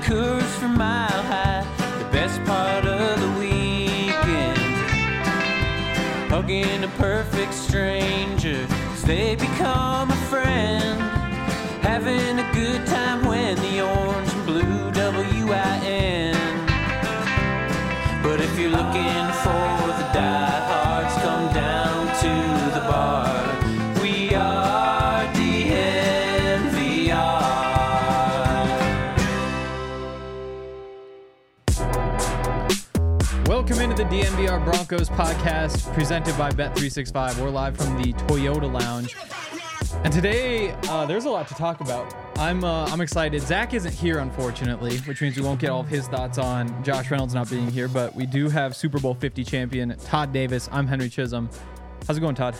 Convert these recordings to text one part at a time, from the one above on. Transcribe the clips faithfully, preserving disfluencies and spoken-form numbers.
Coors from Mile High, the best part of the weekend. Hugging a perfect stranger as they become a friend. Having a good time when the orange and blue W I N. But if you're looking for the diehards, come down to the bar. We are D N V R. Welcome into the D N V R Broncos podcast presented by Bet three sixty-five. We're live from the Toyota Lounge. And today, uh, there's a lot to talk about. I'm uh, I'm excited. Zach isn't here, unfortunately, which means we won't get all of his thoughts on Josh Reynolds not being here. But we do have Super Bowl fifty champion Todd Davis. I'm Henry Chisholm. How's it going, Todd?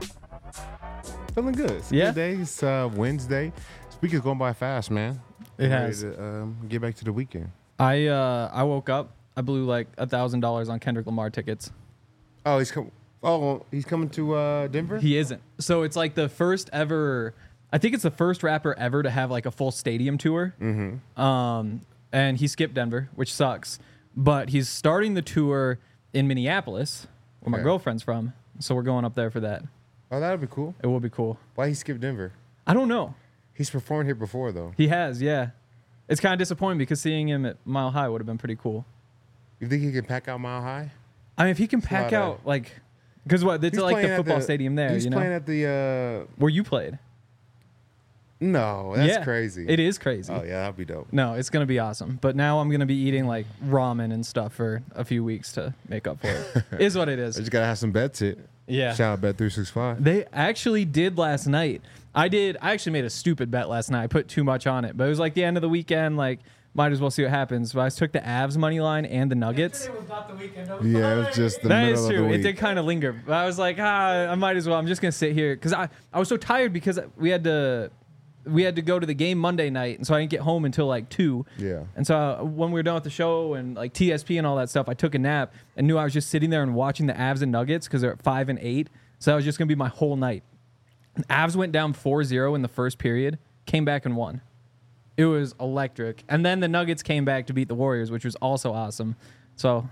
Feeling good. It's a Yeah? good day. It's uh, Wednesday. This week is going by fast, man. It I'm has. Ready to, um, get back to the weekend. I uh, I woke up. I blew like a thousand dollars on Kendrick Lamar tickets. Oh, he's coming. Oh, he's coming to uh, Denver. He isn't. So it's like the first ever. I think it's the first rapper ever to have like a full stadium tour. Mm-hmm. Um, and he skipped Denver, which sucks. But he's starting the tour in Minneapolis, where my Okay. girlfriend's from. So we're going up there for that. Oh, that'd be cool. It will be cool. Why he skipped Denver? I don't know. He's performed here before, though. He has, yeah. It's kind of disappointing because seeing him at Mile High would have been pretty cool. You think he can pack out Mile High? I mean, if he can It's pack not a- out like, because what? It's He's like the playing at football stadium there, He's you know, playing at the. Uh, where you played. no, that's Yeah, crazy. It is crazy. Oh yeah, that'd be dope. No, it's gonna be awesome. But now I'm gonna be eating like ramen and stuff for a few weeks to make up for it. Is what it I is. just gotta have some bets hit. Yeah. Shout out Bet three sixty-five. They actually did last night. I did. I actually made a stupid bet last night. I put too much on it, but it was like the end of the weekend. Like, might as well see what happens. So I took the Avs money line and the Nuggets. It was not the weekend. It was Yeah, it Friday. was just the That middle is of true. the It week. did kind of linger. But I was like, ah, I might as well. I'm just gonna sit here because I I was so tired because we had to we had to go to the game Monday night, and so I didn't get home until like two. Yeah. And so uh, when we were done with the show and like T S P and all that stuff, I took a nap and knew I was just sitting there and watching the Avs and Nuggets because they're at five and eight. So that was just gonna be my whole night. And Avs went down four zero in the first period, came back and won. It was electric. And then the Nuggets came back to beat the Warriors, which was also awesome. So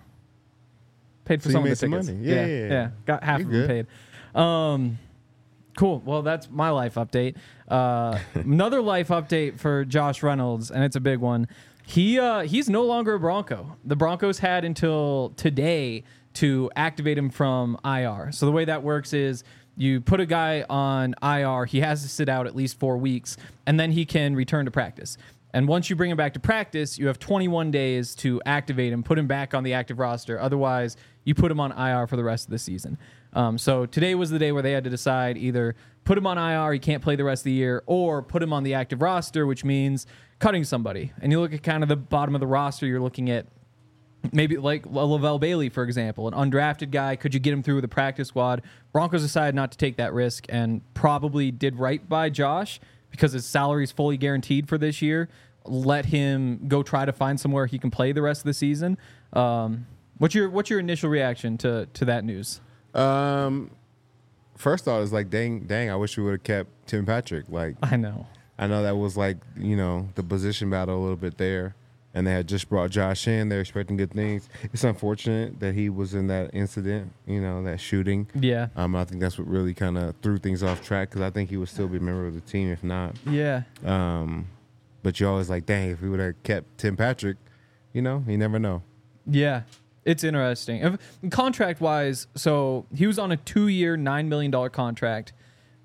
paid for So you some of made the some tickets. money. Yeah, yeah, yeah, yeah. Got half You're of them good. paid. Um, cool. Well, that's my life update. Uh, another life update for Josh Reynolds, and it's a big one. He uh, he's no longer a Bronco. The Broncos had until today to activate him from I R. So the way that works is you put a guy on I R, he has to sit out at least four weeks, and then he can return to practice. And once you bring him back to practice, you have twenty-one days to activate him, put him back on the active roster. Otherwise, you put him on I R for the rest of the season. Um, so today was the day where they had to decide either put him on I R, he can't play the rest of the year, or put him on the active roster, which means cutting somebody. And you look at kind of the bottom of the roster, you're looking at maybe like Lavelle Bailey, for example, an undrafted guy. Could you get him through the practice squad? Broncos decided not to take that risk and probably did right by Josh because his salary is fully guaranteed for this year. Let him go try to find somewhere he can play the rest of the season. Um, what's your what's your initial reaction to to that news? Um, first thought is like, dang, dang. I wish we would have kept Tim Patrick. Like, I know. I know that was like, you know, the position battle a little bit there. And they had just brought Josh in. They're expecting good things. It's unfortunate that he was in that incident, you know, that shooting. Yeah. Um, I think that's what really kind of threw things off track because I think he would still be a member of the team if not. Yeah. Um, but you're always like, dang, if we would have kept Tim Patrick, you know, you never know. Yeah. It's interesting. If, contract wise, so he was on a two year, nine million dollars contract.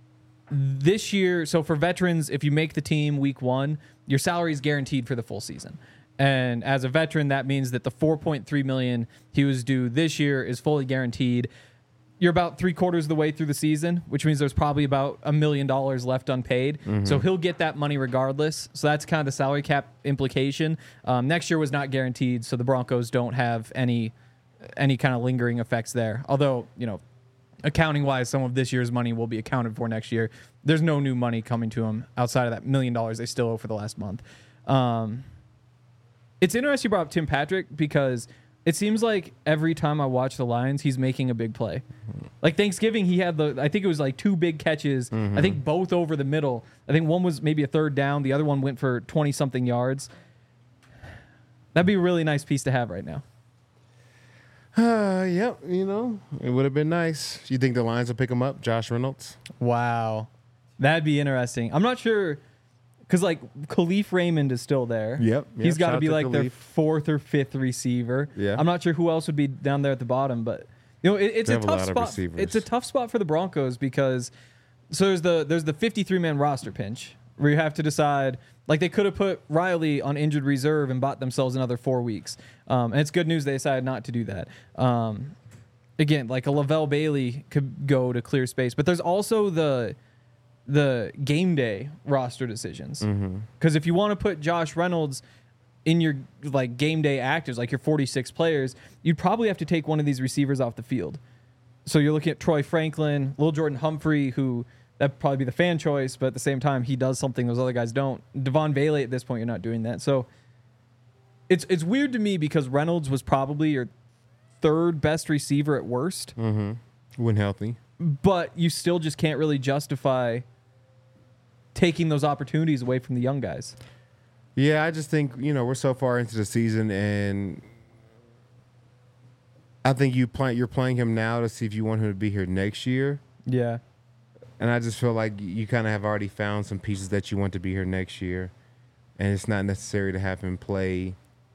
This year, so for veterans, if you make the team week one, your salary is guaranteed for the full season. And as a veteran, that means that the four point three million dollars he was due this year is fully guaranteed. You're about three quarters of the way through the season, which means there's probably about a million dollars left unpaid. Mm-hmm. So he'll get that money regardless. So that's kind of the salary cap implication. Um, next year was not guaranteed, so the Broncos don't have any any kind of lingering effects there. Although, you know, accounting wise, some of this year's money will be accounted for next year. There's no new money coming to him outside of that million dollars they still owe for the last month. Um, It's interesting you brought up Tim Patrick because it seems like every time I watch the Lions, he's making a big play. Like Thanksgiving, he had the, I think it was like two big catches. Mm-hmm. I think both over the middle. I think one was maybe a third down. The other one went for twenty-something yards. That'd be a really nice piece to have right now. Uh, yep, you know, it would have been nice. You think the Lions will pick him up, Josh Reynolds? Wow. That'd be interesting. I'm not sure, because, like, Khalif Raymond is still there. Yep. He's yep, got to shout be, like, Khalif. their fourth or fifth receiver. Yeah. I'm not sure who else would be down there at the bottom, but, you know, it, it's They a have a tough lot of spot. receivers. It's a tough spot for the Broncos because, so there's the there's the fifty-three man roster pinch where you have to decide, like, they could have put Riley on injured reserve and bought themselves another four weeks. Um, and it's good news they decided not to do that. Um, again, like a Lavelle Bailey could go to clear space, but there's also the the game day roster decisions. Because if you want to put Josh Reynolds in your like game day actives, like your forty-six players, you'd probably have to take one of these receivers off the field. So you're looking at Troy Franklin, Lil Jordan Humphrey, who that'd probably be the fan choice, but at the same time, he does something those other guys don't. Devon Bailey, at this point, you're not doing that. So it's it's weird to me because Reynolds was probably your third best receiver at worst, Mm-hmm. When healthy. but you still just can't really justify taking those opportunities away from the young guys. Yeah, I just think, you know, we're so far into the season, and I think you play, you're playing him now to see if you want him to be here next year. Yeah. And I just feel like you kind of have already found some pieces that you want to be here next year, and it's not necessary to have him play.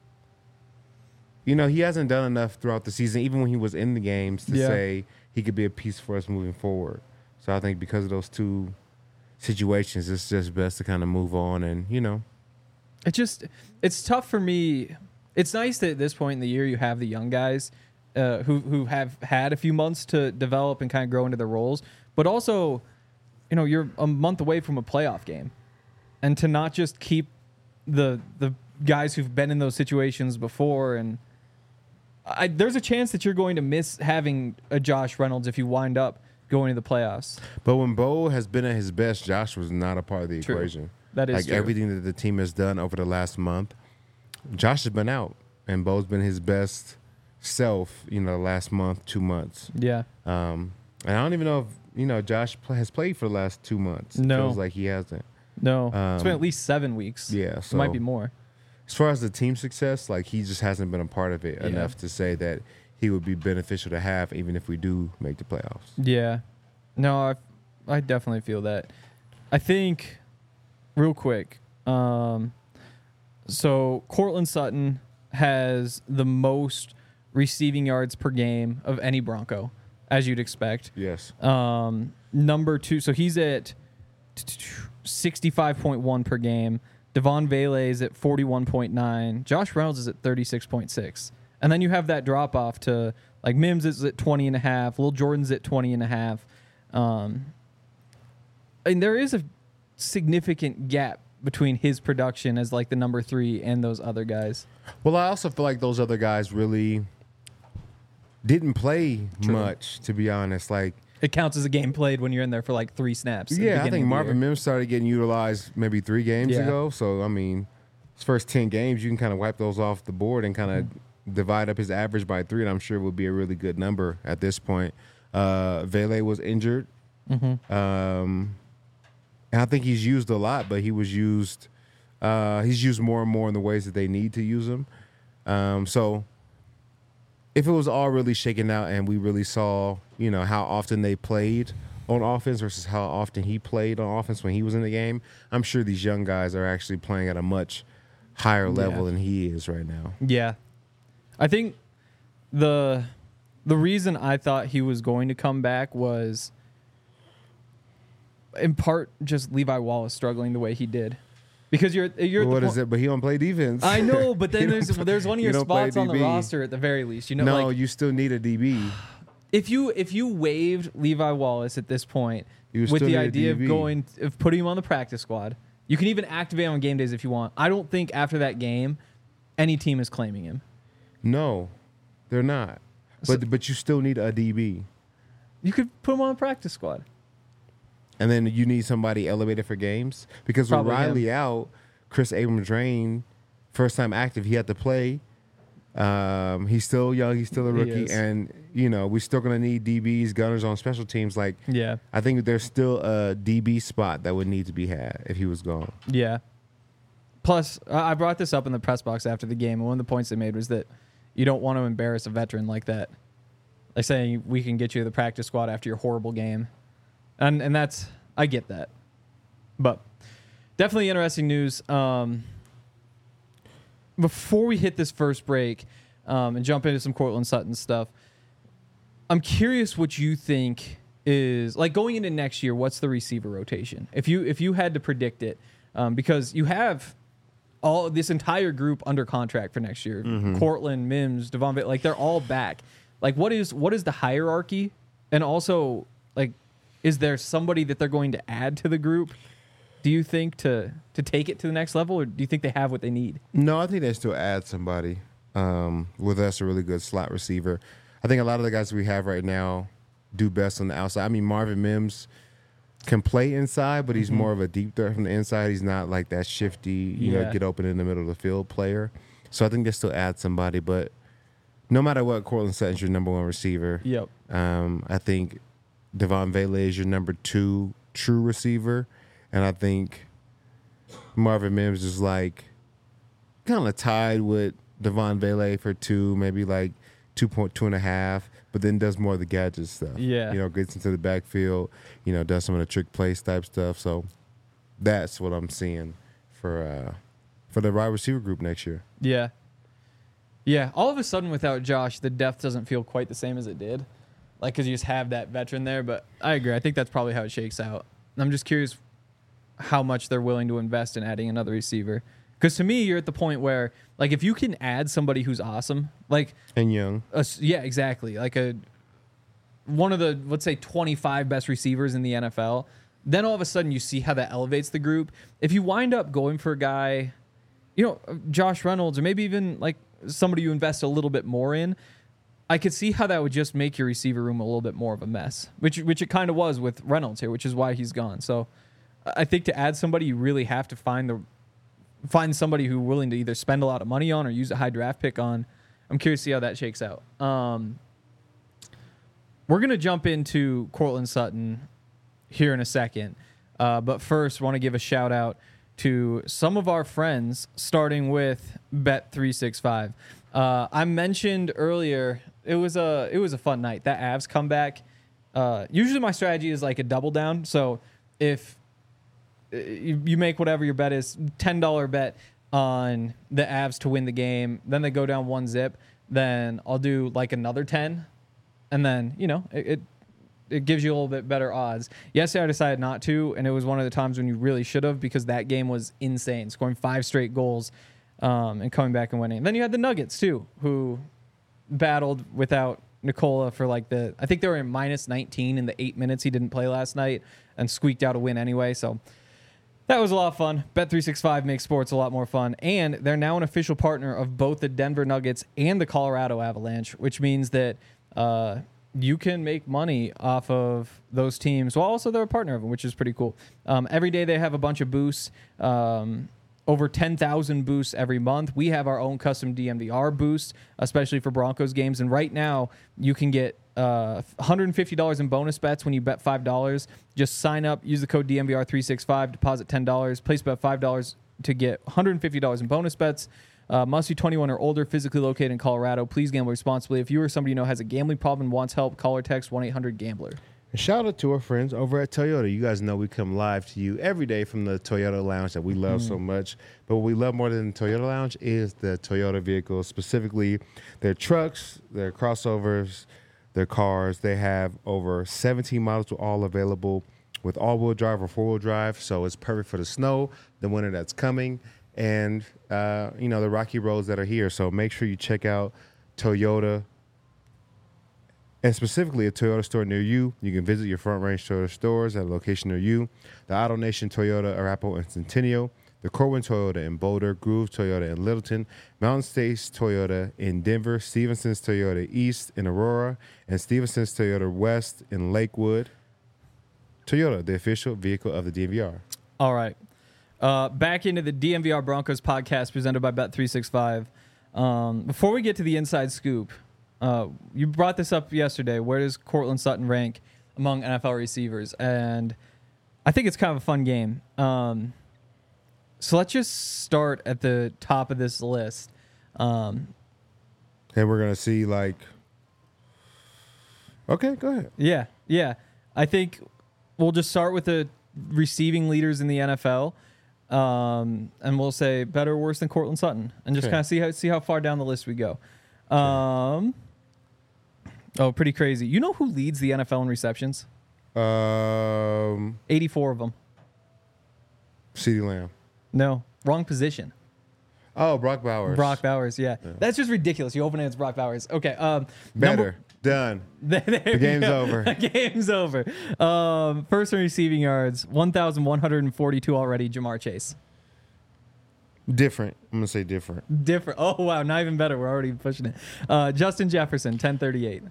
You know, he hasn't done enough throughout the season, even when he was in the games, to Yeah. say he could be a piece for us moving forward. So I think because of those two situations, it's just best to kind of move on and, you know. It just, it's tough for me. It's nice that at this point in the year you have the young guys uh, who who have had a few months to develop and kind of grow into their roles, but also, you know, you're a month away from a playoff game, and to not just keep the the guys who've been in those situations before, and I, there's a chance that you're going to miss having a Josh Reynolds if you wind up going to the playoffs. But when Bo has been at his best, Josh was not a part of the True. equation. That is like true. everything that the team has done over the last month, Josh has been out, and Bo's been his best self. You know, the last month, two months. Yeah. Um, and I don't even know if you know Josh pl- has played for the last two months. No. Feels like he hasn't. No. it's been Um, at least seven weeks. Yeah, It so might be more. as far as the team success, like he just hasn't been a part of it Yeah. enough to say that he would be beneficial to have, even if we do make the playoffs. Yeah. No, I, I definitely feel that. I think, real quick, um, so Cortland Sutton has the most receiving yards per game of any Bronco, as you'd expect. Yes. Um, number two, so he's at sixty-five point one per game. Devon Bailey is at forty-one point nine. Josh Reynolds is at thirty-six point six. And then you have that drop off to, like, Mims is at twenty and a half. Lil Jordan's at twenty and a half. Um, and there is a significant gap between his production as, like, the number three and those other guys. Well, I also feel like those other guys really didn't play True. much, to be honest. Like, It counts as a game played when you're in there for, like, three snaps. at the yeah, I beginning think of the Marvin year. Mims started getting utilized maybe three games Yeah. ago. So, I mean, his first ten games, you can kind of wipe those off the board and kind of Mm-hmm. divide up his average by three, and I'm sure it would be a really good number at this point. Uh, Vele was injured. Mm-hmm. Um, and I think he's used a lot, but he was used. Uh, he's used more and more in the ways that they need to use him. Um, so if it was all really shaken out and we really saw, you know, how often they played on offense versus how often he played on offense when he was in the game, I'm sure these young guys are actually playing at a much higher level Yeah. than he is right now. Yeah. I think the the reason I thought he was going to come back was in part just Levi Wallace struggling the way he did. Because you're you're at the What is po- it? But he don't play defense. I know, but He then don't there's play- there's one of he your don't play spots on the D B. roster at the very least. You know, no, like you still need a D B. if you if you waived Levi Wallace at this point You with still the need a idea of D B. going of putting him on the practice squad, you can even activate him on game days if you want. I don't think after that game any team is claiming him. No, they're not. So- But but you still need a D B. You could put him on the practice squad. And then you need somebody elevated for games. Because Probably with him. Riley out, Chris Abrams-Drain, first time active, he had to play. Um, he's still young. He's still a He rookie. is. And, you know, we're still going to need D Bs, gunners on special teams. Like, Yeah. I think there's still a D B spot that would need to be had if he was gone. Yeah. Plus, I I brought this up in the press box after the game, and one of the points they made was that you don't want to embarrass a veteran like that. Like saying we can get you to the practice squad after your horrible game. And and that's, I get that. But definitely interesting news. Um, before we hit this first break um, and jump into some Cortland Sutton stuff, I'm curious what you think is, like going into next year, what's the receiver rotation? If you if you had to predict it, um, because you have all this entire group under contract for next year. Mm-hmm. Cortland, Mims, Devon, like they're all back. Like what is what is the hierarchy? And also, like, is there somebody that they're going to add to the group, do you think, to to take it to the next level, or do you think they have what they need? No, I think they still add somebody. Um, with us, a really good slot receiver. I think a lot of the guys we have right now do best on the outside. I mean, Marvin Mims can play inside, but he's Mm-hmm. more of a deep threat from the inside. He's not like that shifty, you Yeah. know, get open in the middle of the field player. So I think they still add somebody. But no matter what, Cortland Sutton's your number one receiver. Yep. Um, I think Devon Vele is your number two true receiver. And I think Marvin Mims is like kind of tied with Devon Vele for two, maybe like two point two and a half, but then does more of the gadget stuff. Yeah. You know, gets into the backfield, you know, does some of the trick plays type stuff. So that's what I'm seeing for uh, for the wide receiver group next year. Yeah. Yeah. All of a sudden, without Josh, the depth doesn't feel quite the same as it did. Like, because you just have that veteran there. But I agree. I think that's probably how it shakes out. I'm just curious how much they're willing to invest in adding another receiver. Because to me, you're at the point where, like, if you can add somebody who's awesome, like, And Young. a, yeah, exactly, like a one of the, let's say, twenty-five best receivers in the N F L, then all of a sudden you see how that elevates the group. If you wind up going for a guy, you know, Josh Reynolds, or maybe even like somebody you invest a little bit more in, I could see how that would just make your receiver room a little bit more of a mess, which which it kind of was with Reynolds here, which is why he's gone. So I think to add somebody, you really have to find the find somebody who's willing to either spend a lot of money on or use a high draft pick on. I'm curious to see how that shakes out. Um, we're going to jump into Cortland Sutton here in a second. Uh, but first, want to give a shout out to some of our friends, starting with Bet three sixty-five. Uh, I mentioned earlier, it was a it was a fun night. That Avs comeback. Uh, usually my strategy is like a double down. So if you, you make whatever your bet is, ten dollars bet on the Avs to win the game, then they go down one zip, then I'll do like another ten, and then, you know, it, it it gives you a little bit better odds. Yesterday I decided not to, and it was one of the times when you really should have, because that game was insane, scoring five straight goals um, and coming back and winning. And then you had the Nuggets too, who battled without Nikola for like the, I think they were in minus nineteen in the eight minutes he didn't play last night, and squeaked out a win anyway. So that was a lot of fun. Bet three sixty-five makes sports a lot more fun. And they're now an official partner of both the Denver Nuggets and the Colorado Avalanche, which means that uh, you can make money off of those teams while also they're a partner of them, which is pretty cool. Um, every day they have a bunch of boosts, um, over ten thousand boosts every month. We have our own custom D M V R boost, especially for Broncos games. And right now you can get uh, one hundred fifty dollars in bonus bets when you bet five dollars. Just sign up, use the code D M V R three sixty-five, deposit ten dollars, place bet five dollars to get one hundred fifty dollars in bonus bets. Uh, must be twenty-one or older, physically located in Colorado. Please gamble responsibly. If you or somebody you know has a gambling problem and wants help, call or text one eight hundred gambler. And shout out to our friends over at Toyota. You guys know we come live to you every day from the Toyota Lounge that we love so much. But what we love more than the Toyota Lounge is the Toyota vehicles, specifically their trucks, their crossovers, their cars. They have over seventeen models all available with all-wheel drive or four-wheel drive. So it's perfect for the snow, the winter that's coming, and uh, you know, the rocky roads that are here. So make sure you check out Toyota, and specifically a Toyota store near you. You can visit your Front Range Toyota stores at a location near you. The Auto Nation Toyota, Arapahoe and Centennial. The Corwin Toyota in Boulder. Groove Toyota in Littleton. Mountain States Toyota in Denver. Stevenson's Toyota East in Aurora. And Stevenson's Toyota West in Lakewood. Toyota, the official vehicle of the D M V R. All right. Uh, back into the D M V R Broncos podcast presented by Bet three sixty-five. Um, before we get to the inside scoop, uh, you brought this up yesterday. Where does Cortland Sutton rank among N F L receivers? And I think it's kind of a fun game. Um, So let's just start at the top of this list. Um, And we're gonna see like. Okay, go ahead. yeah, yeah. I think we'll just start with the receiving leaders in the N F L, um, and we'll say better or worse than Cortland Sutton, and just Okay. kind of see how see how far down the list we go. Um, oh, pretty crazy. You know who leads the N F L in receptions? Um, eighty-four of them. CeeDee Lamb. No, wrong position. Oh, Brock Bowers. Brock Bowers, yeah. That's just ridiculous. You open it, it's Brock Bowers. Okay. Um, Better. Done. There, there The we game's go. over. The game's over. Um, first in receiving yards, one thousand one hundred forty-two already, Jamar Chase. Different. I'm gonna say different. Different. Oh, wow. Not even better. We're already pushing it. Uh, Justin Jefferson, ten thirty-eight.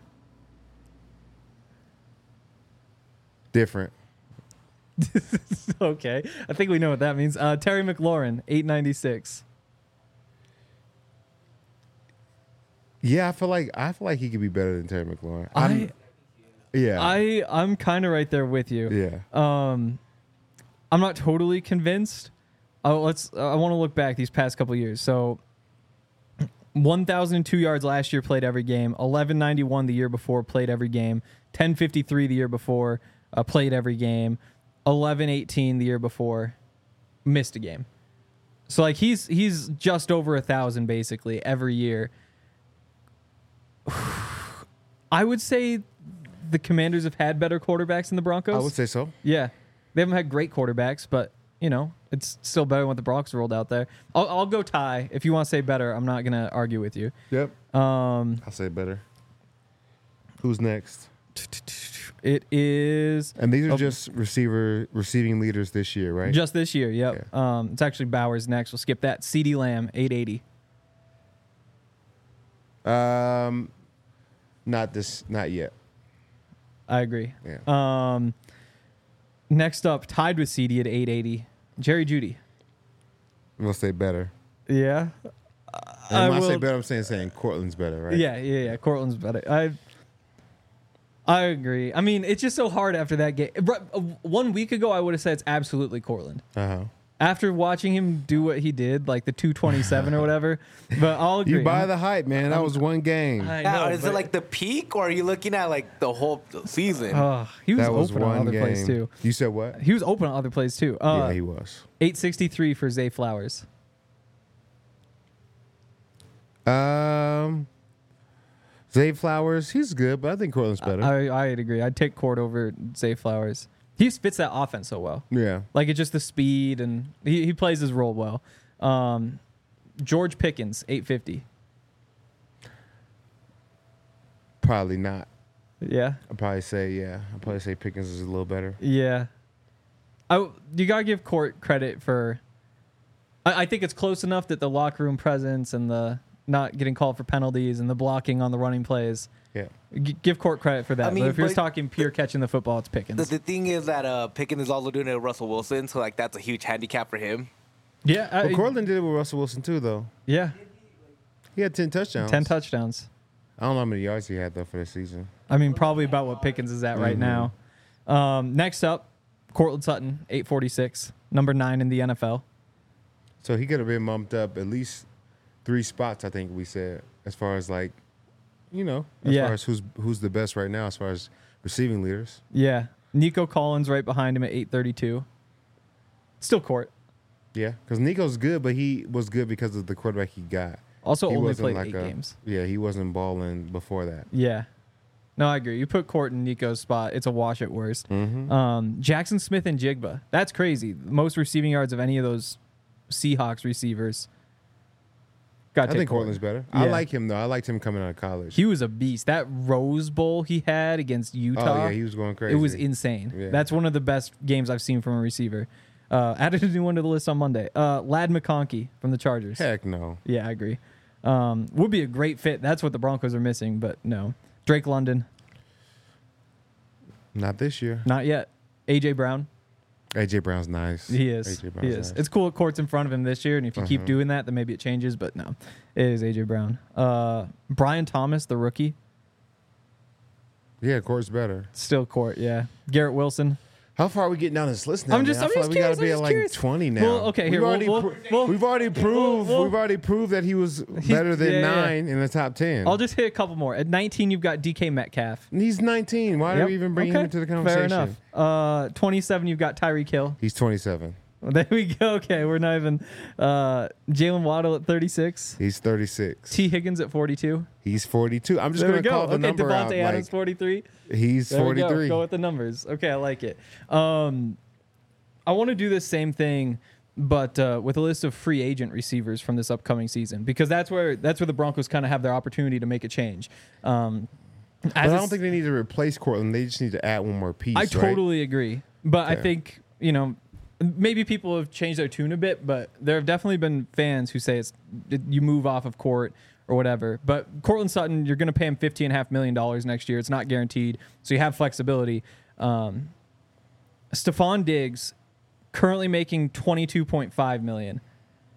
Different. Okay. I think we know what that means. Uh, Terry McLaurin, eight ninety-six. Yeah, I feel like I feel like he could be better than Terry McLaurin. I, I'm- yeah. I, I'm kind of right there with you. yeah. Um, I'm not totally convinced. Oh, let's. I want to look back these past couple years. So, one thousand two yards last year, played every game. eleven ninety-one the year before, played every game. ten fifty-three the year before, uh, played every game. eleven eighteen the year before, missed a game. So like he's he's just over a thousand basically every year. I would say the Commanders have had better quarterbacks than the Broncos. I would say so. Yeah, they haven't had great quarterbacks, but you know it's still better than what the Broncos rolled out there. I'll, I'll go tie. If you want to say better, I'm not gonna argue with you. Yep. Um, I'll say better. Who's next? it is And these are Oh. just receiver receiving leaders this year, right? just this year. Yep. Um, it's actually Bowers next. We'll skip that. CeeDee Lamb, eight eighty. Um, not this, not yet. I agree. Yeah. Um, next up, tied with C D at eight eighty, Jerry Jeudy. We'll say better. Yeah. And when I, say will- better, I'm saying saying Cortland's better, right? Yeah, yeah, yeah. Cortland's better. I I agree. I mean, it's just so hard after that game. Bro, uh, One week ago, I would have said it's absolutely Cortland. Uh huh. After watching him do what he did, like the two twenty-seven or whatever, but I'll agree. You buy the hype, man. That was one game. I Now, know, is but- it like the peak, or are you looking at like the whole season? Uh, he was, that was open on one other game. plays too. You said what? He was open on other plays too. Uh, yeah, he was. eight sixty-three for Zay Flowers. Um, Zay Flowers, he's good, but I think Cortland's better. I, I'd agree. I'd take Court over Zay Flowers. He just fits that offense so well. yeah. Like it's just the speed and he, he plays his role well. Um, George Pickens, eight fifty. Probably not. Yeah. I'd probably say, yeah. I'd probably say Pickens is a little better. Yeah. I, you got to give Court credit for. I, I think it's close enough that the locker room presence and the not getting called for penalties and the blocking on the running plays. Yeah. G- give Court credit for that. I mean, but if you're just but- talking pure catching the football, it's Pickens. The, the thing is that uh, Pickens is also doing it with Russell Wilson, so like that's a huge handicap for him. yeah. I, Well, Cortland did it with Russell Wilson, too, though. yeah. He had ten touchdowns. ten touchdowns. I don't know how many yards he had, though, for this season. I mean, probably about what Pickens is at right Mhm. now. Um, next up, Cortland Sutton, eight forty-six, number nine in the N F L. So he could have been bumped up at least three spots, I think we said, as far as, like, you know, as Yeah. far as who's who's the best right now as far as receiving leaders. Yeah. Nico Collins right behind him at eight thirty-two. Still Court. Yeah, because Nico's good, but he was good because of the quarterback he got. Also He only wasn't played like eight a- games. Yeah, he wasn't balling before that. Yeah. No, I agree. You put Court in Nico's spot, it's a wash at worst. Mm-hmm. Um, Jackson Smith and Jigba. That's crazy. Most receiving yards of any of those Seahawks receivers. Got I think Cortland's better. I Yeah. like him, though. I liked him coming out of college. He was a beast. That Rose Bowl he had against Utah. oh, yeah, he was going crazy. It was insane. Yeah. That's one of the best games I've seen from a receiver. Uh, added a new one to the list on Monday. Uh, Lad McConkey from the Chargers. Heck no. Yeah, I agree. Um, would be a great fit. That's what the Broncos are missing, but no. Drake London, Not this year. not yet. A J Brown, A J Brown's nice. he is. A J He Brown's is. nice. It's cool. Court's in front of him this year, and if you keep Uh-huh. doing that, then maybe it changes. But no, it is A J Brown. Uh, Brian Thomas, the rookie, Yeah, Court's better. still Court. Yeah. Garrett Wilson. How far are we getting down this list now? I'm just- man? I I'm feel just like we gotta curious, be I'm at just like curious. twenty now. Well, okay, here, we've we'll- already, we'll- pro- we'll- we've already proved we'll- we've already proved that he was better than yeah, yeah. nine in the top ten. I'll just hit a couple more. At nineteen, you've got D K Metcalf. He's nineteen. Why Yep. are we even bringing Okay, him into the conversation? Fair enough. Uh, twenty-seven, you've got Tyreek Hill. He's twenty-seven. Well, there we go. Okay, we're not even. Uh, Jalen Waddle at thirty-six. He's thirty-six. T. Higgins at forty-two. He's forty-two. I'm just There we gonna go. call the Okay, number Devontae out. Adams, Like, forty-three. he's There we go. forty-three. Go with the numbers. Okay, I like it. Um, I want to do this same thing, but uh, with a list of free agent receivers from this upcoming season, because that's where that's where the Broncos kind of have their opportunity to make a change. Um, But as I a don't think they need to replace Cortland. They just need to add one more piece. I right? totally agree. But I Okay. think, you know, maybe people have changed their tune a bit, but there have definitely been fans who say it's you move off of court or whatever. But Cortland Sutton, you're going to pay him fifteen point five million dollars next year. It's not guaranteed, so you have flexibility. Um, Stephon Diggs, currently making twenty-two point five million dollars.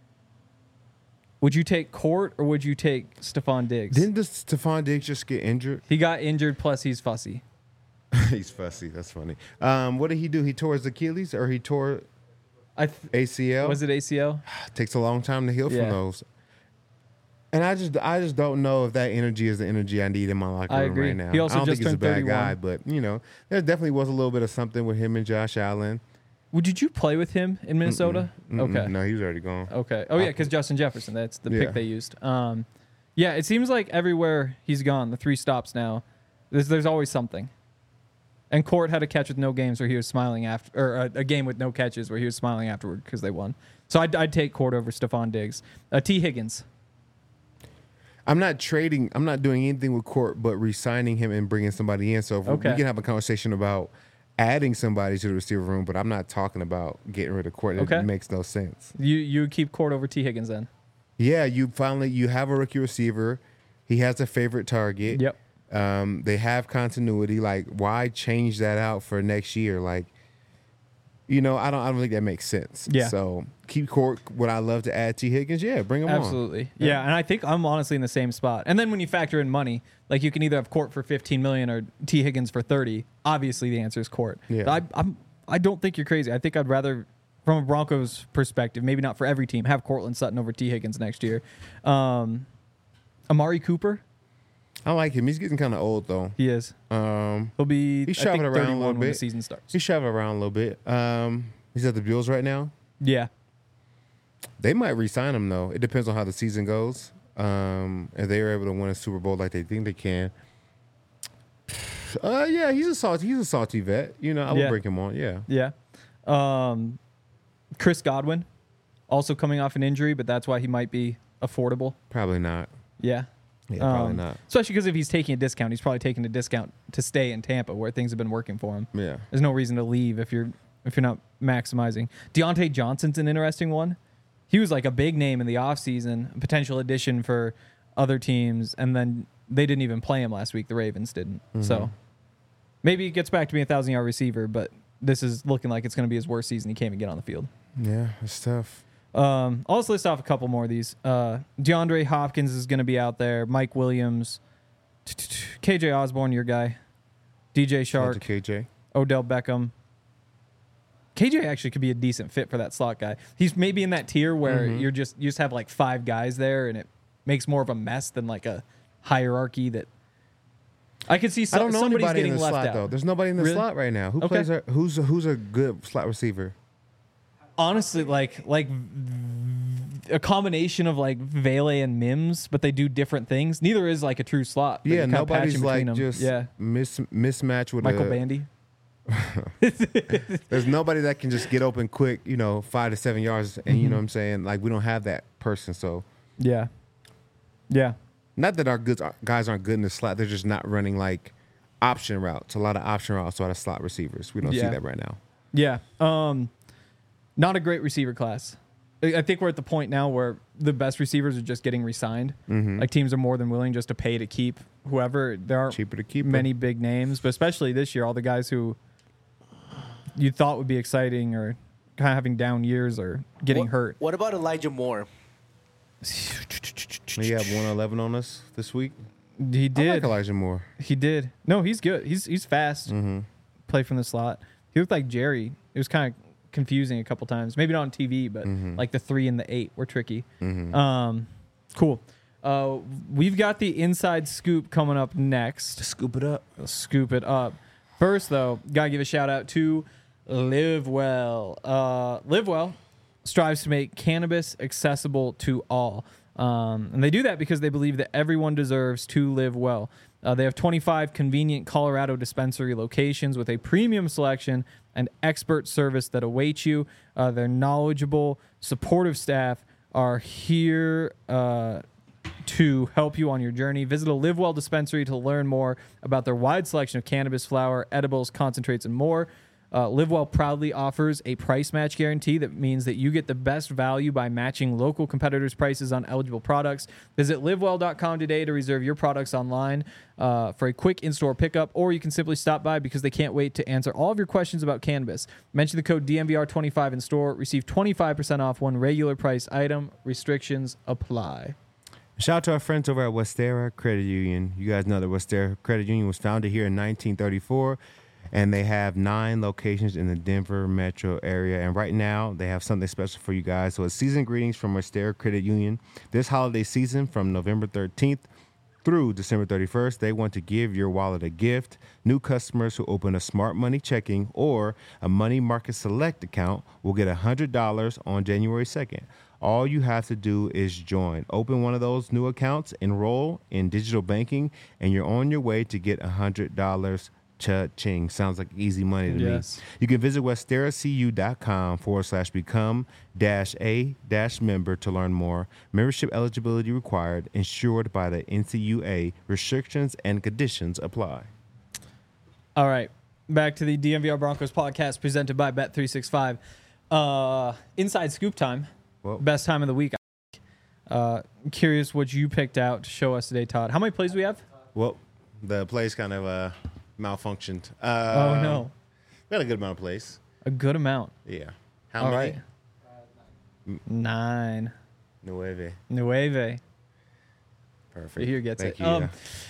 Would you take Court or would you take Stephon Diggs? Didn't this Stephon Diggs just get injured? He got injured, plus he's fussy. He's fussy. That's funny. Um, what did he do? He tore his Achilles or he tore I th- A C L? was it A C L? Takes a long time to heal Yeah. from those. And I just, I just don't know if that energy is the energy I need in my locker I room agree. right now. He also I don't just think he's a turned bad guy, thirty-one. but you know, there definitely was a little bit of something with him and Josh Allen. Would did you play with him in Minnesota? Mm-mm. Okay. No, he was already gone. Okay. Oh yeah, because Justin Jefferson. That's the Yeah. pick they used. Um, yeah, it seems like everywhere he's gone, the three stops now, there's there's always something. And Court had a catch with no games where he was smiling after, or a, a game with no catches where he was smiling afterward because they won. So I'd, I'd take Court over Stephon Diggs. Uh, T. Higgins. I'm not trading. I'm not doing anything with Court, but re-signing him and bringing somebody in. So if Okay. we can have a conversation about adding somebody to the receiver room, but I'm not talking about getting rid of Court. It Okay. makes no sense. You you would keep Court over T. Higgins then? Yeah, you finally you have a rookie receiver. He has a favorite target. Yep. Um, they have continuity. Like, why change that out for next year? Like, you know, I don't. I don't think that makes sense. Yeah. So keep Court. Would I love to add T. Higgins? Yeah, bring him on. Absolutely. Yeah. and I think I'm honestly in the same spot. And then when you factor in money, like you can either have Court for fifteen million or T. Higgins for thirty. Obviously, the answer is Court. Yeah. I, I'm. I don't think you're crazy. I think I'd rather, from a Broncos perspective, maybe not for every team, have Cortland Sutton over T. Higgins next year. Um, Amari Cooper, I like him. He's getting kind of old though. he is. Um, He'll be. He's I think, traveling around a thirty-one little when the bit. season starts. he's traveling around a little bit. Um, he's at the Bills right now. Yeah. They might re-sign him though. It depends on how the season goes. Um, if they are able to win a Super Bowl like they think they can. Uh, yeah, he's a salty. He's a salty vet. You know, I would Yeah. bring him on. Yeah. Yeah. Um, Chris Godwin, also coming off an injury, but that's why he might be affordable. Probably not. Yeah. Yeah, probably Um, not. Especially because if he's taking a discount, he's probably taking a discount to stay in Tampa where things have been working for him. Yeah. There's no reason to leave if you're if you're not maximizing. Deontay Johnson's an interesting one. He was like a big name in the offseason, a potential addition for other teams, and then they didn't even play him last week. The Ravens didn't. Mm-hmm. So maybe he gets back to being a thousand yard receiver, but this is looking like it's going to be his worst season. He can't even get on the field. Yeah, it's tough. Um, I'll just list off a couple more of these. Uh, DeAndre Hopkins is going to be out there. Mike Williams, K J Osborne, your guy, D J Shout out to Shark, K J. Odell Beckham. K J actually could be a decent fit for that slot guy. He's maybe in that tier where Mhm. you're just you just have like five guys there, and it makes more of a mess than like a hierarchy that I could see. So, I don't know somebody's anybody in getting the left slot out. though. There's nobody in the Really? slot right now. Who Okay. plays? Our, who's who's a good slot receiver? Honestly, like like a combination of like Vele and Mims, but they do different things. Neither is like a true slot. but Yeah, you're kinda nobody's patching like between 'em. just yeah. mis mismatch with Michael a, Bandy. There's nobody that can just get open quick, you know, five to seven yards, and you know what I'm saying. Like we don't have that person. So Yeah, yeah, not that our good guys aren't good in the slot. They're just not running like option routes. A lot of option routes, a lot of slot receivers. We don't see Yeah. that right now. yeah. Um, not a great receiver class. I I think we're at the point now where the best receivers are just getting re-signed. Mhm. Like teams are more than willing just to pay to keep whoever. There aren't Cheaper to keep 'em. many big names, but especially this year, all the guys who you thought would be exciting or kind of having down years or getting what, hurt. What about Elijah Moore? He have one eleven on us this week. He I did. like Elijah Moore. He did. No, he's good. He's he's fast. Mm-hmm. Play from the slot. He looked like Jerry. It was kind of confusing a couple times. Maybe not on T V, but Mm-hmm. like the three and the eight were tricky. Um, cool. Uh, we've got the inside scoop coming up next. Scoop it up. We'll scoop it up. First, though, gotta give a shout out to Live Well. Uh, Live Well strives to make cannabis accessible to all. Um, and they do that because they believe that everyone deserves to live well. Uh, they have twenty-five convenient Colorado dispensary locations with a premium selection and expert service that awaits you. Uh, their knowledgeable, supportive staff are here uh, to help you on your journey. Visit a Live Well dispensary to learn more about their wide selection of cannabis flower, edibles, concentrates, and more. Uh, Live Well proudly offers a price match guarantee that means that you get the best value by matching local competitors' prices on eligible products. Visit live well dot com today to reserve your products online uh, for a quick in-store pickup, or you can simply stop by because they can't wait to answer all of your questions about cannabis. Mention the code D M V R twenty-five in store. Receive twenty-five percent off one regular price item. Restrictions apply. Shout out to our friends over at Westera Credit Union. You guys know that Westera Credit Union was founded here in nineteen thirty-four. And they have nine locations in the Denver metro area. And right now, they have something special for you guys. So it's season greetings from Westera Credit Union. This holiday season, from November thirteenth through December thirty-first, they want to give your wallet a gift. New customers who open a Smart Money checking or a Money Market Select account will get one hundred dollars on January second. All you have to do is join. Open one of those new accounts, enroll in digital banking, and you're on your way to get one hundred dollars. Cha-ching. Sounds like easy money to Yes. me. You can visit westeracu.com forward slash become dash a dash member to learn more. Membership eligibility required, insured by the N C U A. Restrictions and conditions apply. All right. Back to the D M V R Broncos podcast presented by Bet three sixty-five. Uh, inside scoop time. Well, Best time of the week. Uh, I'm curious what you picked out to show us today, Todd. How many plays do we have? well, the place kind of uh, malfunctioned. Oh, Uh, no. We had a good amount of plays. A good amount. Yeah. How All many? right. Nine. Nueve. Nueve. Perfect. Here gets Thank it. you. Um,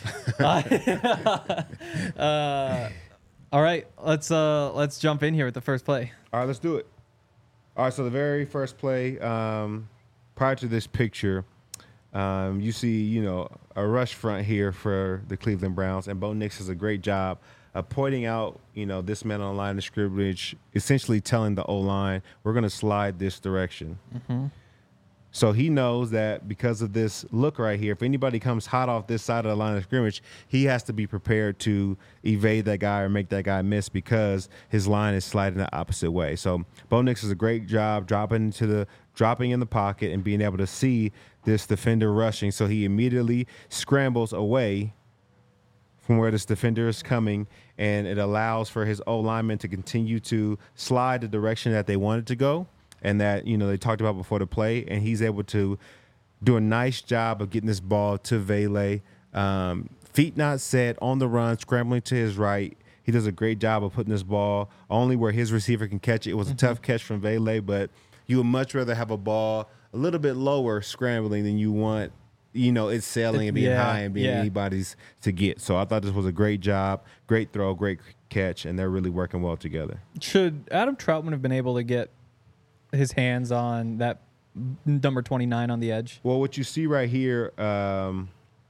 uh, all right, let's uh, let's jump in here with the first play. All right, let's do it. All right, so the very first play, um, prior to this picture, um, you see, you know, a rush front here for the Cleveland Browns, and Bo Nix does a great job of pointing out, you know, this man on the line of scrimmage, essentially telling the O-line, we're going to slide this direction. Mm-hmm. So he knows that because of this look right here, if anybody comes hot off this side of the line of scrimmage, he has to be prepared to evade that guy or make that guy miss because his line is sliding the opposite way. So Bo Nix does a great job dropping into the dropping in the pocket and being able to see this defender rushing. So he immediately scrambles away from where this defender is coming, and it allows for his O lineman to continue to slide the direction that they wanted to go. And that, you know, they talked about before the play, and he's able to do a nice job of getting this ball to Vele. Um, feet not set, on the run, scrambling to his right. He does a great job of putting this ball only where his receiver can catch it. It was a Mm-hmm. tough catch from Vele, but you would much rather have a ball a little bit lower scrambling than you want, you know, it's sailing and being Yeah, high and being yeah. anybody's to get. So I thought this was a great job, great throw, great catch, and they're really working well together. Should Adam Troutman have been able to get his hands on that number twenty-nine on the edge? Well, what you see right here, um,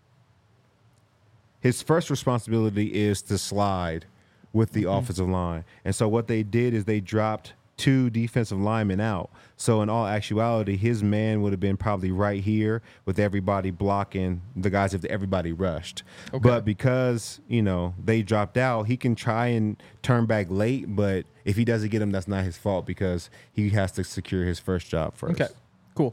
his first responsibility is to slide with the Mm-hmm. offensive line. And so what they did is they dropped two defensive linemen out. So in all actuality, his man would have been probably right here with everybody blocking the guys if everybody rushed. Okay. But because, you know, they dropped out, he can try and turn back late, but if he doesn't get him, that's not his fault because he has to secure his first job first. Okay, cool.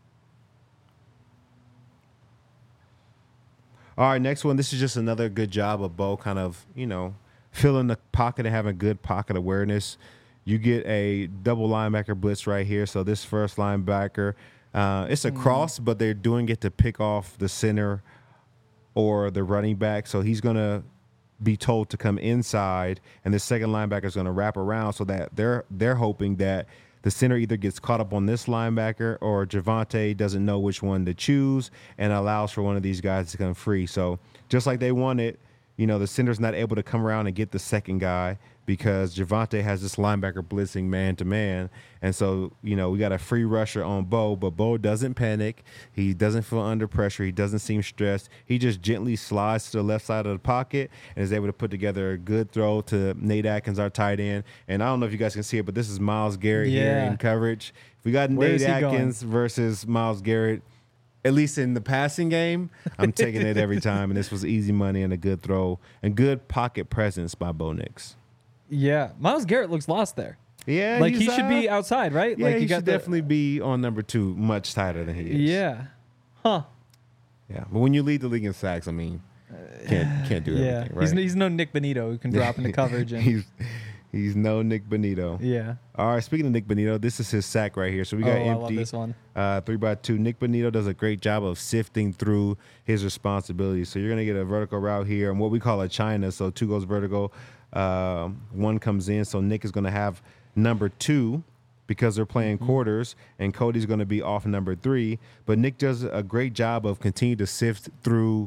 All right, next one. This is just another good job of Bo kind of, you know, filling the pocket and having good pocket awareness. You get a double linebacker blitz right here. So this first linebacker, uh, it's a cross, but they're doing it to pick off the center or the running back. So he's going to be told to come inside, and the second linebacker is going to wrap around so that they're they're hoping that the center either gets caught up on this linebacker or Javonte doesn't know which one to choose and allows for one of these guys to come free. So just like they wanted, you know, the center's not able to come around and get the second guy because Javonte has this linebacker blitzing man to man. And so, you know, we got a free rusher on Bo, but Bo doesn't panic. He doesn't feel under pressure. He doesn't seem stressed. He just gently slides to the left side of the pocket and is able to put together a good throw to Nate Atkins, our tight end. And I don't know if you guys can see it, but this is Myles Garrett here Yeah. in coverage. If we got Where Nate is he going? Atkins versus Myles Garrett, at least in the passing game, I'm taking it every time. And this was easy money and a good throw and good pocket presence by Bo Nix. Yeah, Myles Garrett looks lost there. Yeah, Like he's, he should uh, be outside, right? Yeah, like he you got should the- definitely be on number two, much tighter than he is. Yeah. Huh. Yeah, but when you lead the league in sacks, I mean, can't can't do Yeah. everything, right? He's, he's no Nick Benito who can drop into coverage. And, he's he's no Nick Benito. yeah. All right, speaking of Nick Benito, this is his sack right here. So we got Oh, I love empty. this one. Uh, three by two. Nick Benito does a great job of sifting through his responsibilities. So you're gonna get a vertical route here, and what we call a China. So two goes vertical, um, one comes in. So Nick is gonna have number two because they're playing Mm-hmm. quarters, and Cody's gonna be off number three. But Nick does a great job of continuing to sift through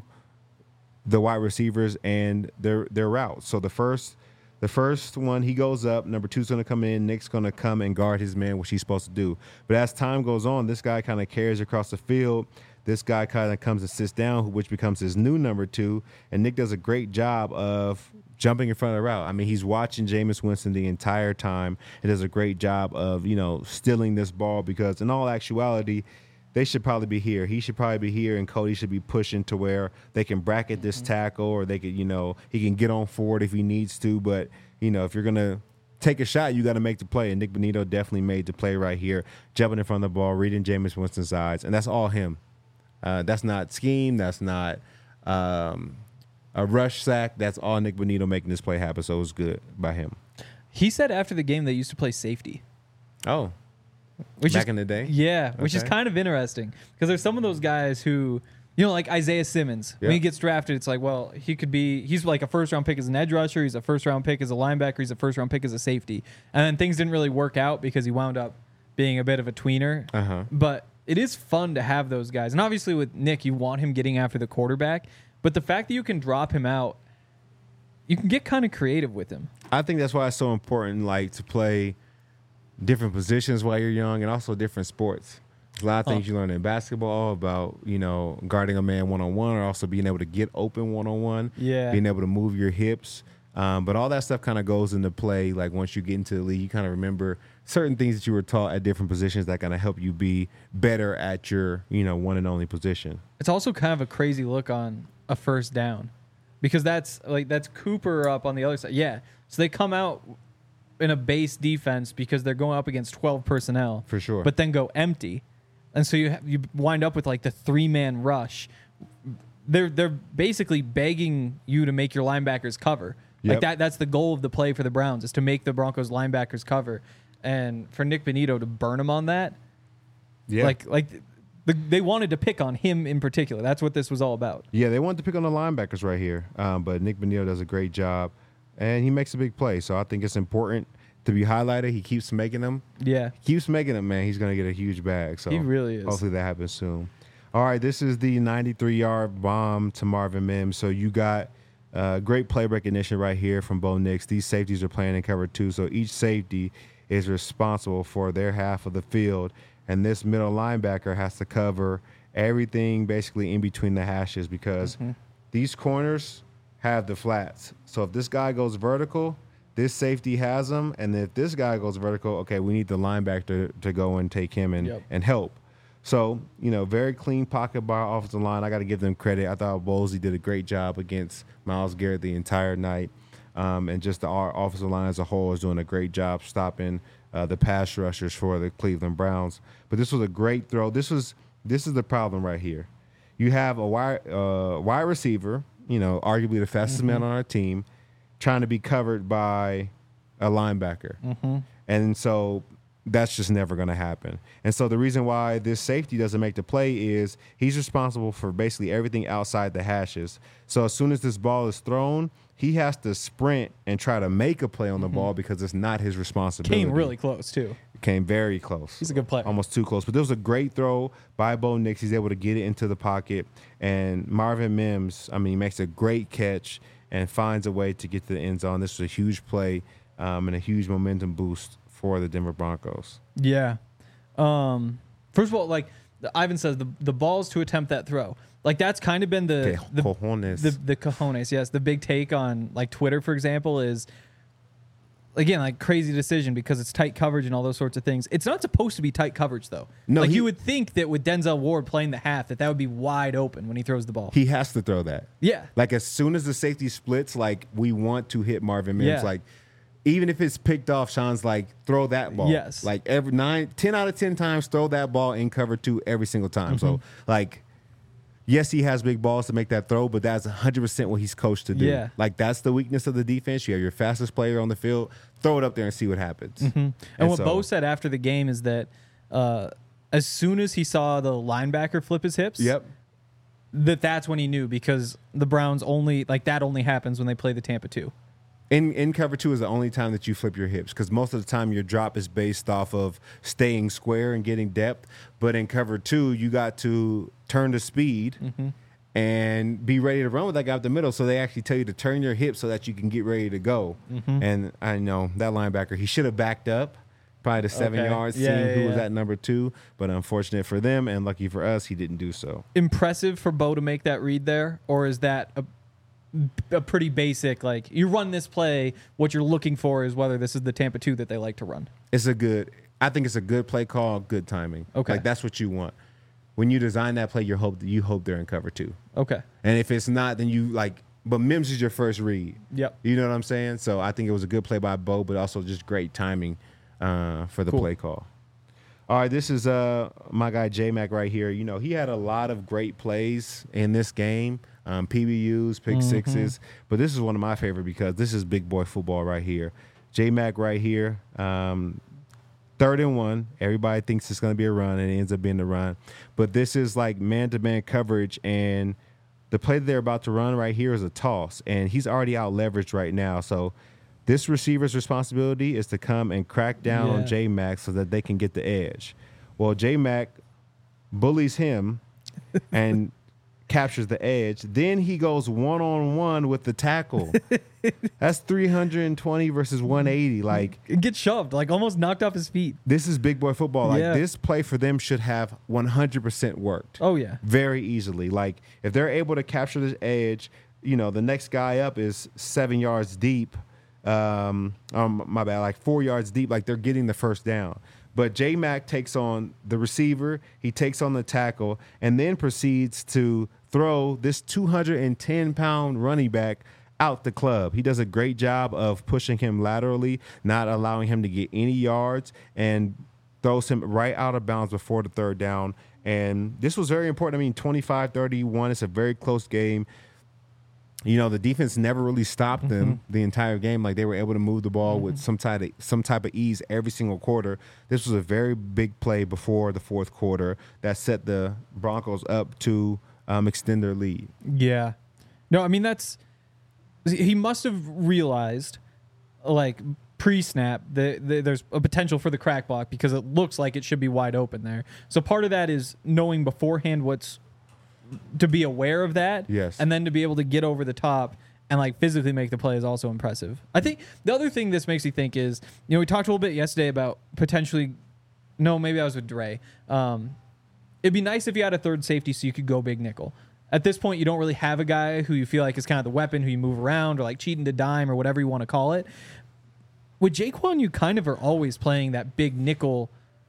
the wide receivers and their their routes. So the first the first one, he goes up. Number two's going to come in. Nick's going to come and guard his man, which he's supposed to do. But as time goes on, this guy kind of carries across the field. This guy kind of comes and sits down, which becomes his new number two. And Nick does a great job of jumping in front of the route. I mean, he's watching Jameis Winston the entire time. He does a great job of, you know, stealing this ball because in all actuality, they should probably be here. He should probably be here, and Cody should be pushing to where they can bracket this tackle, or they could, you know, he can get on forward if he needs to. But, you know, if you're going to take a shot, you got to make the play. And Nick Benito definitely made the play right here, jumping in front of the ball, reading Jameis Winston's eyes. And that's all him. Uh, that's not scheme. That's not um, a rush sack. That's all Nick Benito making this play happen. So it was good by him. He said after the game they used to play safety. Oh, Which back is, in the day? Yeah, which is Okay. kind of interesting because there's some of those guys who, you know, like Isaiah Simmons. When Yeah. he gets drafted, it's like, well, he could be, he's like a first round pick as an edge rusher. He's a first round pick as a linebacker. He's a first round pick as a safety. And then things didn't really work out because he wound up being a bit of a tweener. Uh-huh. But it is fun to have those guys. And obviously with Nick, you want him getting after the quarterback. But the fact that you can drop him out, you can get kind of creative with him. I think that's why it's so important, like, to play different positions while you're young and also different sports. There's a lot of things Huh. you learn in basketball about, you know, guarding a man one-on-one or also being able to get open one-on-one, Yeah. being able to move your hips. Um, but all that stuff kind of goes into play. Like, once you get into the league, you kind of remember certain things that you were taught at different positions that kind of help you be better at your, you know, one and only position. It's also kind of a crazy look on a first down because that's like that's Cooper up on the other side. Yeah. So they come out in a base defense because they're going up against twelve personnel. For sure. But then go empty. And so you have, you wind up with like the three-man rush. They're they're basically begging you to make your linebackers cover. Like Yep. that that's the goal of the play for the Browns is to make the Broncos linebackers cover. And for Nick Benito to burn him on that, Yeah. like like the, they wanted to pick on him in particular. That's what this was all about. Yeah, they wanted to pick on the linebackers right here, um, but Nick Benito does a great job, and he makes a big play. So I think it's important to be highlighted. He keeps making them. Yeah. Keeps making them, man. He's going to get a huge bag. So He really is. Hopefully that happens soon. All right, this is the ninety-three-yard bomb to Marvin Mims. So you got uh, great play recognition right here from Bo Nix. These safeties are playing in cover two, so each safety is responsible for their half of the field, and this middle linebacker has to cover everything basically in between the hashes because Mm-hmm. these corners have the flats. So if this guy goes vertical, this safety has him, and if this guy goes vertical, okay, we need the linebacker to, to go and take him and, Yep. and help. So, you know, very clean pocket by our offensive line. I got to give them credit. I thought Bolsey did a great job against Myles Garrett the entire night. Um, and just the our offensive line as a whole is doing a great job stopping uh, the pass rushers for the Cleveland Browns. But this was a great throw. This was this is the problem right here. You have a wide, uh, wide receiver, you know, arguably the fastest man on our team, trying to be covered by a linebacker. And so that's just never going to happen. And so the reason why this safety doesn't make the play is he's responsible for basically everything outside the hashes. So as soon as this ball is thrown, he has to sprint and try to make a play on the ball because it's not his responsibility. Came really close too. Came very close. He's a good player. Almost too close. But there was a great throw by Bo Nix. He's able to get it into the pocket. And Marvin Mims, I mean, he makes a great catch. and finds a way to get to the end zone. This was a huge play um, and a huge momentum boost for the Denver Broncos. Yeah. Um, first of all, like Ivan says, the the balls to attempt that throw. Like that's kind of been the Que the, cojones. the the cojones. Yes, the big take on like Twitter, for example, is again like crazy decision because it's tight coverage and all those sorts of things. It's not supposed to be tight coverage though. No, like he- you would think that with Denzel Ward playing the half, that that would be wide open when he throws the ball. He has to throw that. yeah. Like as soon as the safety splits, like we want to hit Marvin Mims. Yeah. Like even if it's picked off, Sean's like throw that ball. Yes. Like every nine, ten out of ten times, throw that ball in cover two every single time. So Mm-hmm. like, yes, he has big balls to make that throw, but that's one hundred percent what he's coached to do. Yeah. Like that's the weakness of the defense. You have your fastest player on the field, throw it up there and see what happens. Mm-hmm. And, And what so- Bo said after the game is that uh, as soon as he saw the linebacker flip his hips, Yep. that that's when he knew because the Browns only like that only happens when they play the Tampa two. In in cover two is the only time that you flip your hips because most of the time your drop is based off of staying square and getting depth. But in cover two, you got to turn the speed Mm-hmm. and be ready to run with that guy up the middle. So they actually tell you to turn your hips so that you can get ready to go. Mm-hmm. And I know that linebacker, he should have backed up. Probably the seven Okay. yards Yeah, team yeah, who was yeah. at number two. But unfortunate for them and lucky for us, he didn't do so. Impressive for Bo to make that read there, or is that a, a pretty basic like you run this play? What you're looking for is whether this is the Tampa two that they like to run. It's a good, I think it's a good play call, good timing. Okay. Like that's what you want. When you design that play, you hope you hope they're in cover two. Okay. And if it's not, then you like, but Mims is your first read. Yep. You know what I'm saying? So I think it was a good play by Bo, but also just great timing uh, for the Cool. play call. All right, this is uh, my guy J-Mac right here. You know, he had a lot of great plays in this game, um, P B Us, pick Mm-hmm. sixes, but this is one of my favorite because this is big boy football right here. J-Mac right here, um, third and one. Everybody thinks it's going to be a run, and it ends up being a run. But this is like man-to-man coverage, and the play that they're about to run right here is a toss, and he's already out leveraged right now. So this receiver's responsibility is to come and crack down on Yeah. J-Mac so that they can get the edge. Well, J-Mac bullies him and captures the edge. Then he goes one-on-one with the tackle. That's three hundred twenty versus one eighty. Like, It gets shoved, like almost knocked off his feet. this is big boy football. Like, Yeah. this play for them should have one hundred percent worked Oh yeah. very easily. Like, if they're able to capture this edge, you know, the next guy up is seven yards deep. Um, um, my bad, like four yards deep. Like, they're getting the first down. But J-Mac takes on the receiver, he takes on the tackle, and then proceeds to throw this two hundred ten pound running back out the club. He does a great job of pushing him laterally, not allowing him to get any yards, and throws him right out of bounds before the third down. And this was very important. I mean, twenty-five thirty-one, it's a very close game. You know, the defense never really stopped them the entire game. Like, they were able to move the ball with some type of some type of ease every single quarter. This was a very big play before the fourth quarter that set the Broncos up to um, extend their lead. Yeah. No, I mean that's he must have realized like pre-snap that that there's a potential for the crack block because it looks like it should be wide open there. So part of that is knowing beforehand what's to be aware of that. Yes. And then to be able to get over the top and like physically make the play is also impressive. I think the other thing this makes me think is, you know, we talked a little bit yesterday about potentially no, maybe I was with Dre. Um, it'd be nice if you had a third safety so you could go big nickel. At this point, you don't really have a guy who you feel like is kind of the weapon, who you move around or like cheating to dime or whatever you want to call it. With Jaquan, you kind of are always playing that big nickel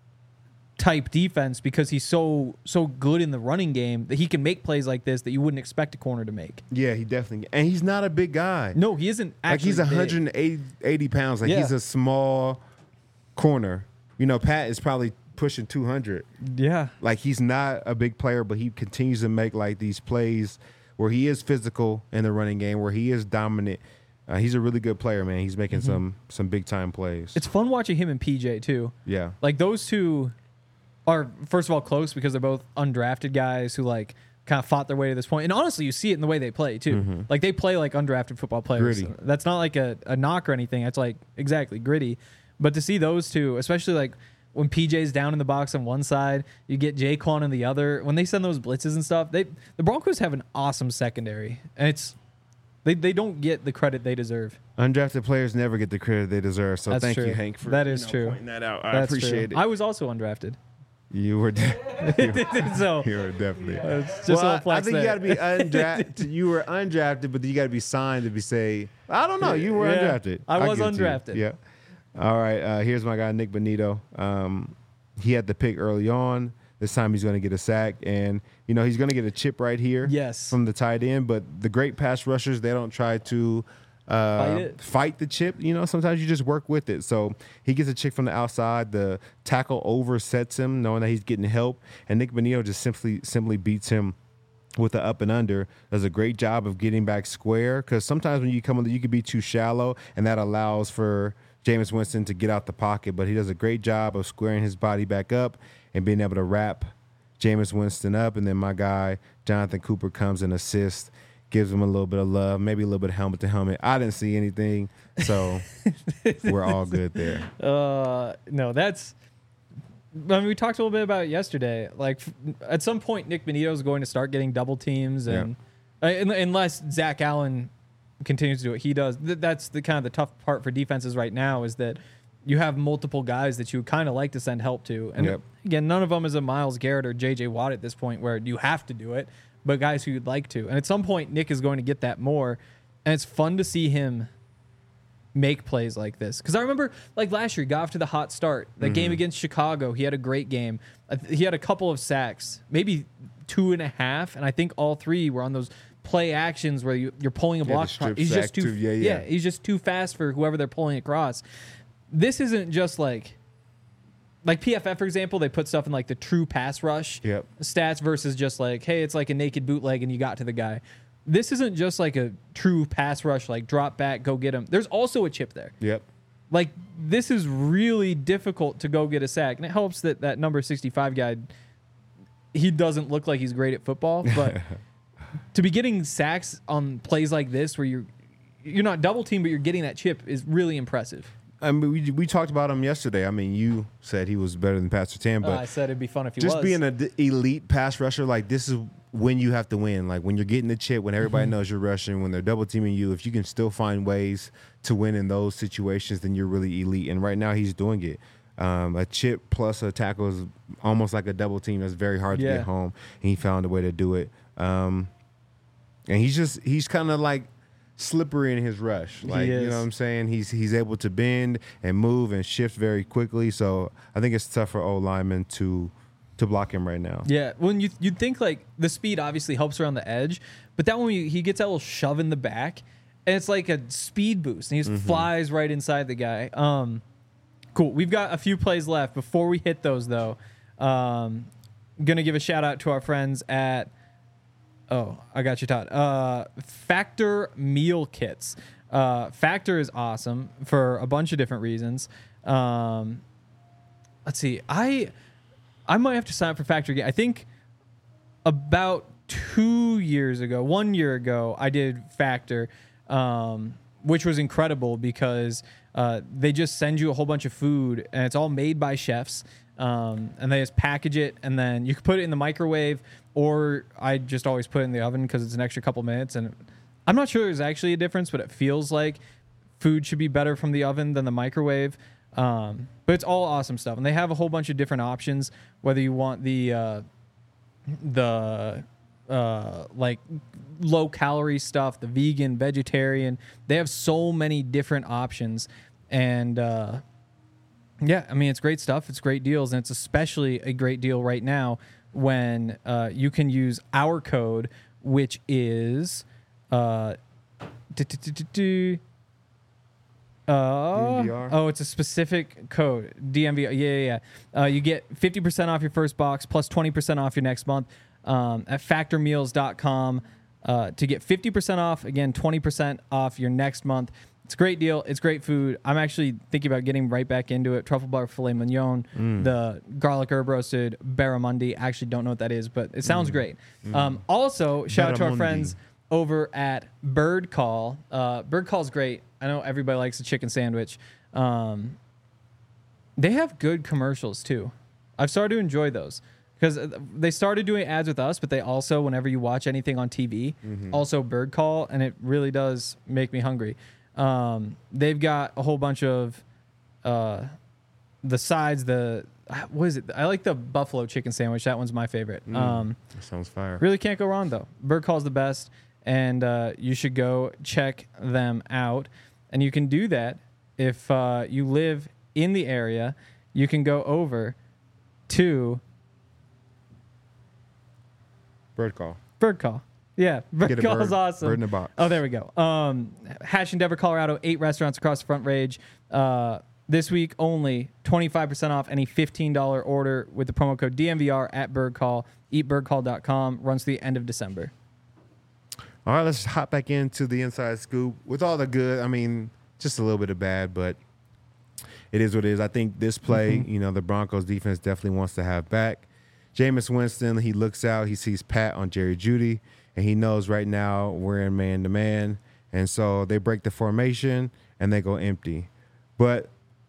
type defense because he's so so good in the running game that he can make plays like this that you wouldn't expect a corner to make. Yeah, he definitely. And he's not a big guy. No, he isn't Like, actually he's big. one hundred eighty eighty pounds. Like, Yeah. he's a small corner. You know, Pat is probably pushing two hundred. Yeah. Like, he's not a big player, but he continues to make like these plays where he is physical in the running game, where he is dominant. Uh, he's a really good player, man. He's making some some big time plays. It's fun watching him and P J too. yeah, Like those two are first of all close because they're both undrafted guys who like kind of fought their way to this point. And honestly, you see it in the way they play too. Like they play like undrafted football players. Gritty. That's not like a, a knock or anything. That's like exactly gritty. But to see those two, especially like when P J's down in the box on one side, you get Jaquan on the other. When they send those blitzes and stuff, they the Broncos have an awesome secondary, and it's They they don't get the credit they deserve. Undrafted players never get the credit they deserve. So That's thank true. you, Hank, for That you is know, true. pointing that out. I That's appreciate true. it. I was also undrafted. You were, de- you were, so you were definitely. it's just well, a little I, I flex think you got to there. be undrafted. You were undrafted, but then you got to be signed to be say. I don't know. You were Yeah, undrafted. I I'll was give it to you. undrafted. Yeah. All right. Uh, here's my guy Nick Bonito. Um, he had the pick early on. This time he's going to get a sack, and you know he's going to get a chip right here. Yes. From the tight end, but the great pass rushers, they don't try to uh, Fight it? fight the chip. You know, sometimes you just work with it. So he gets a chick from the outside. The tackle oversets him, knowing that he's getting help, and Nick Bonito just simply simply beats him with the up and under. Does a great job of getting back square, because sometimes when you come on, you can be too shallow, and that allows for Jameis Winston to get out the pocket. But he does a great job of squaring his body back up and being able to wrap Jameis Winston up. And then my guy, Jonathan Cooper, comes and assists, gives him a little bit of love, maybe a little bit of helmet to helmet. I didn't see anything, so we're all good there. Uh, no, that's. I mean, we talked a little bit about it yesterday. Like, f- at some point, Nick Bonito is going to start getting double teams, and uh, un- unless Zach Allen continues to do what he does, th- that's the kind of the tough part for defenses right now is that you have multiple guys that you kind of like to send help to, and Yep. again, none of them is a Myles Garrett or J J Watt at this point where you have to do it, but guys who you'd like to. And at some point, Nick is going to get that more, and it's fun to see him make plays like this. Because I remember, like last year, he got off to the hot start. The game against Chicago, he had a great game. I th- He had a couple of sacks, maybe two and a half, and I think all three were on those play actions where you, you're pulling a Yeah, the block. strip He's sack just too, too. Yeah, yeah. he's just too fast for whoever they're pulling across. This isn't just like, like P F F, for example, they put stuff in like the true pass rush Yep. stats versus just like, hey, it's like a naked bootleg and you got to the guy. This isn't just like a true pass rush, like drop back, go get him. There's also a chip there. Yep. Like, this is really difficult to go get a sack. And it helps that that number sixty-five guy, he doesn't look like he's great at football. But to be getting sacks on plays like this where you're you're not double teamed, but you're getting that chip is really impressive. I mean, we, we talked about him yesterday. I mean, you said he was better than Pat Surtain, Uh, but I said it'd be fun if he just was. being an elite pass rusher, like this is when you have to win. Like when you're getting the chip, when everybody knows you're rushing, when they're double teaming you, if you can still find ways to win in those situations, then you're really elite. And right now he's doing it. Um, a chip plus a tackle is almost like a double team. That's very hard to Yeah. get home. And he found a way to do it. Um, and he's just he's kind of like slippery in his rush. Like, you is. know what I'm saying? He's he's able to bend and move and shift very quickly. So I think it's tough for O linemen to to block him right now. Yeah, when you you'd think like the speed obviously helps around the edge, but that one he he gets that little shove in the back, and it's like a speed boost, and he just flies right inside the guy. Um, cool. We've got a few plays left before we hit those though. Um, gonna give a shout out to our friends at. Oh, I got you, Todd. Uh, Factor meal kits. Uh, Factor is awesome for a bunch of different reasons. Um, let's see. I I might have to sign up for Factor again. I think about two years ago, one year ago, I did Factor, um, which was incredible because uh, they just send you a whole bunch of food and it's all made by chefs. Um, and they just package it, and then you can put it in the microwave, or I just always put it in the oven because it's an extra couple minutes. And I'm not sure there's actually a difference, but it feels like food should be better from the oven than the microwave. Um, but it's all awesome stuff, and they have a whole bunch of different options. Whether you want the uh, the uh, like low calorie stuff, the vegan, vegetarian, they have so many different options, and uh, yeah, I mean, it's great stuff. It's great deals, and it's especially a great deal right now when uh, you can use our code, which is uh, du-du-du-du-du, uh, D M V R? oh, it's a specific code. D M V R. Yeah, yeah, yeah. Uh, you get fifty percent off your first box plus twenty percent off your next month um, at factor meals dot com uh, to get fifty percent off. Again, twenty percent off your next month. It's a great deal. It's great food. I'm actually thinking about getting right back into it. Truffle bar filet mignon, the garlic herb roasted barramundi. I actually don't know what that is, but it sounds great. Um, also, shout out to our Barramundi. friends over at Bird Call. Uh, Bird Call's great. I know everybody likes a chicken sandwich. Um, they have good commercials too. I've started to enjoy those. because they started doing ads with us, but they also, whenever you watch anything on T V, also Bird Call, and it really does make me hungry. Um, they've got a whole bunch of uh, the sides. The what is it? I like the buffalo chicken sandwich. That one's my favorite. Mm. Um, That sounds fire. really can't go wrong though. Bird Call's the best, and uh, you should go check them out. And you can do that if uh, you live in the area. You can go over to Bird Call. Bird Call. Yeah, Bird Get a Call bird- is awesome. bird in a box. Oh, there we go. Um, Hash in Denver, Colorado. Eight restaurants across the Front Range. Uh, this week only twenty-five percent off any fifteen dollars order with the promo code D M V R at Bird Call. eat bird call dot com. Runs to the end of December. All right, let's hop back into the inside scoop with all the good. I mean, just a little bit of bad, but it is what it is. I think this play, Mm-hmm. you know, the Broncos defense definitely wants to have back. Jameis Winston, he looks out, he sees Pat on Jerry Jeudy, and he knows right now we're in man-to-man. And so they break the formation, and they go empty. But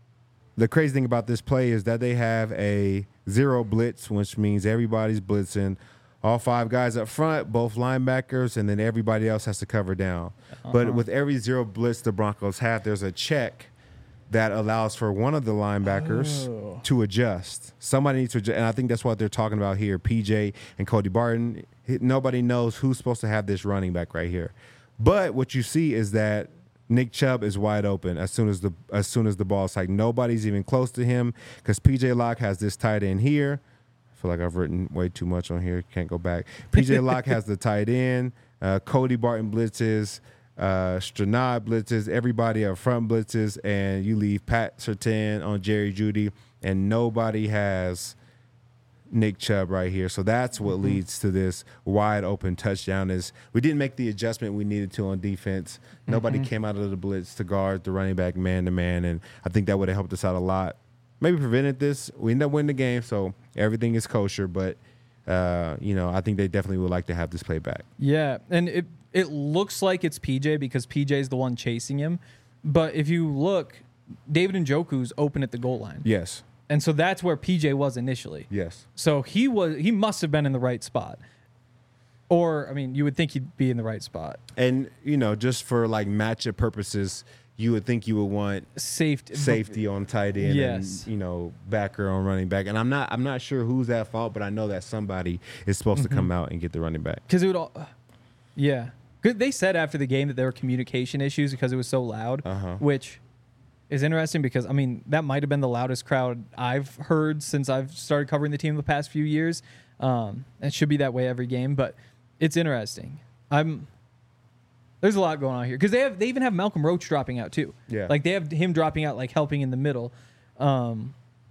the crazy thing about this play is that they have a zero blitz, which means everybody's blitzing. All five guys up front, both linebackers, and then everybody else has to cover down. Uh-huh. But with every zero blitz the Broncos have, there's a check that allows for one of the linebackers Oh. to adjust. Somebody needs to adjust, and I think that's what they're talking about here. P J and Cody Barton. He- Nobody knows who's supposed to have this running back right here. But what you see is that Nick Chubb is wide open as soon as the as soon as the ball is like nobody's even close to him because P J Locke has this tight end here. I feel like I've written way too much on here. Can't go back. P J Locke has the tight end. Uh, Cody Barton blitzes. Uh, Stranad blitzes. Everybody up front blitzes. And you leave Pat Surtain on Jerry Jeudy. And nobody has Nick Chubb right here. So that's what Mm-hmm. leads to this wide open touchdown is we didn't make the adjustment we needed to on defense. Nobody Mm-hmm. came out of the blitz to guard the running back man to man. And I think that would have helped us out a lot. Maybe prevented this. We ended up winning the game, so everything is kosher. But, uh, you know, I think they definitely would like to have this play back. Yeah, and it it looks like it's P J because P J is the one chasing him. But if you look, David Njoku's open at the goal line. Yes. And so that's where P J was initially. Yes. So he was he must have been in the right spot. Or I mean, you would think he'd be in the right spot. And, you know, just for like matchup purposes, you would think you would want Safety safety on tight end Yes. and, you know, backer on running back. And I'm not I'm not sure who's at fault, but I know that somebody is supposed to come out and get the running back. Because it would all Yeah. Good. They said after the game that there were communication issues because it was so loud, Uh-huh. which is interesting because I mean that might have been the loudest crowd I've heard since I've started covering the team the past few years. Um, it should be that way every game, but it's interesting. I'm there's a lot going on here because they have they even have Malcolm Roach dropping out too. Yeah. like they have him dropping out, like helping in the middle. Um,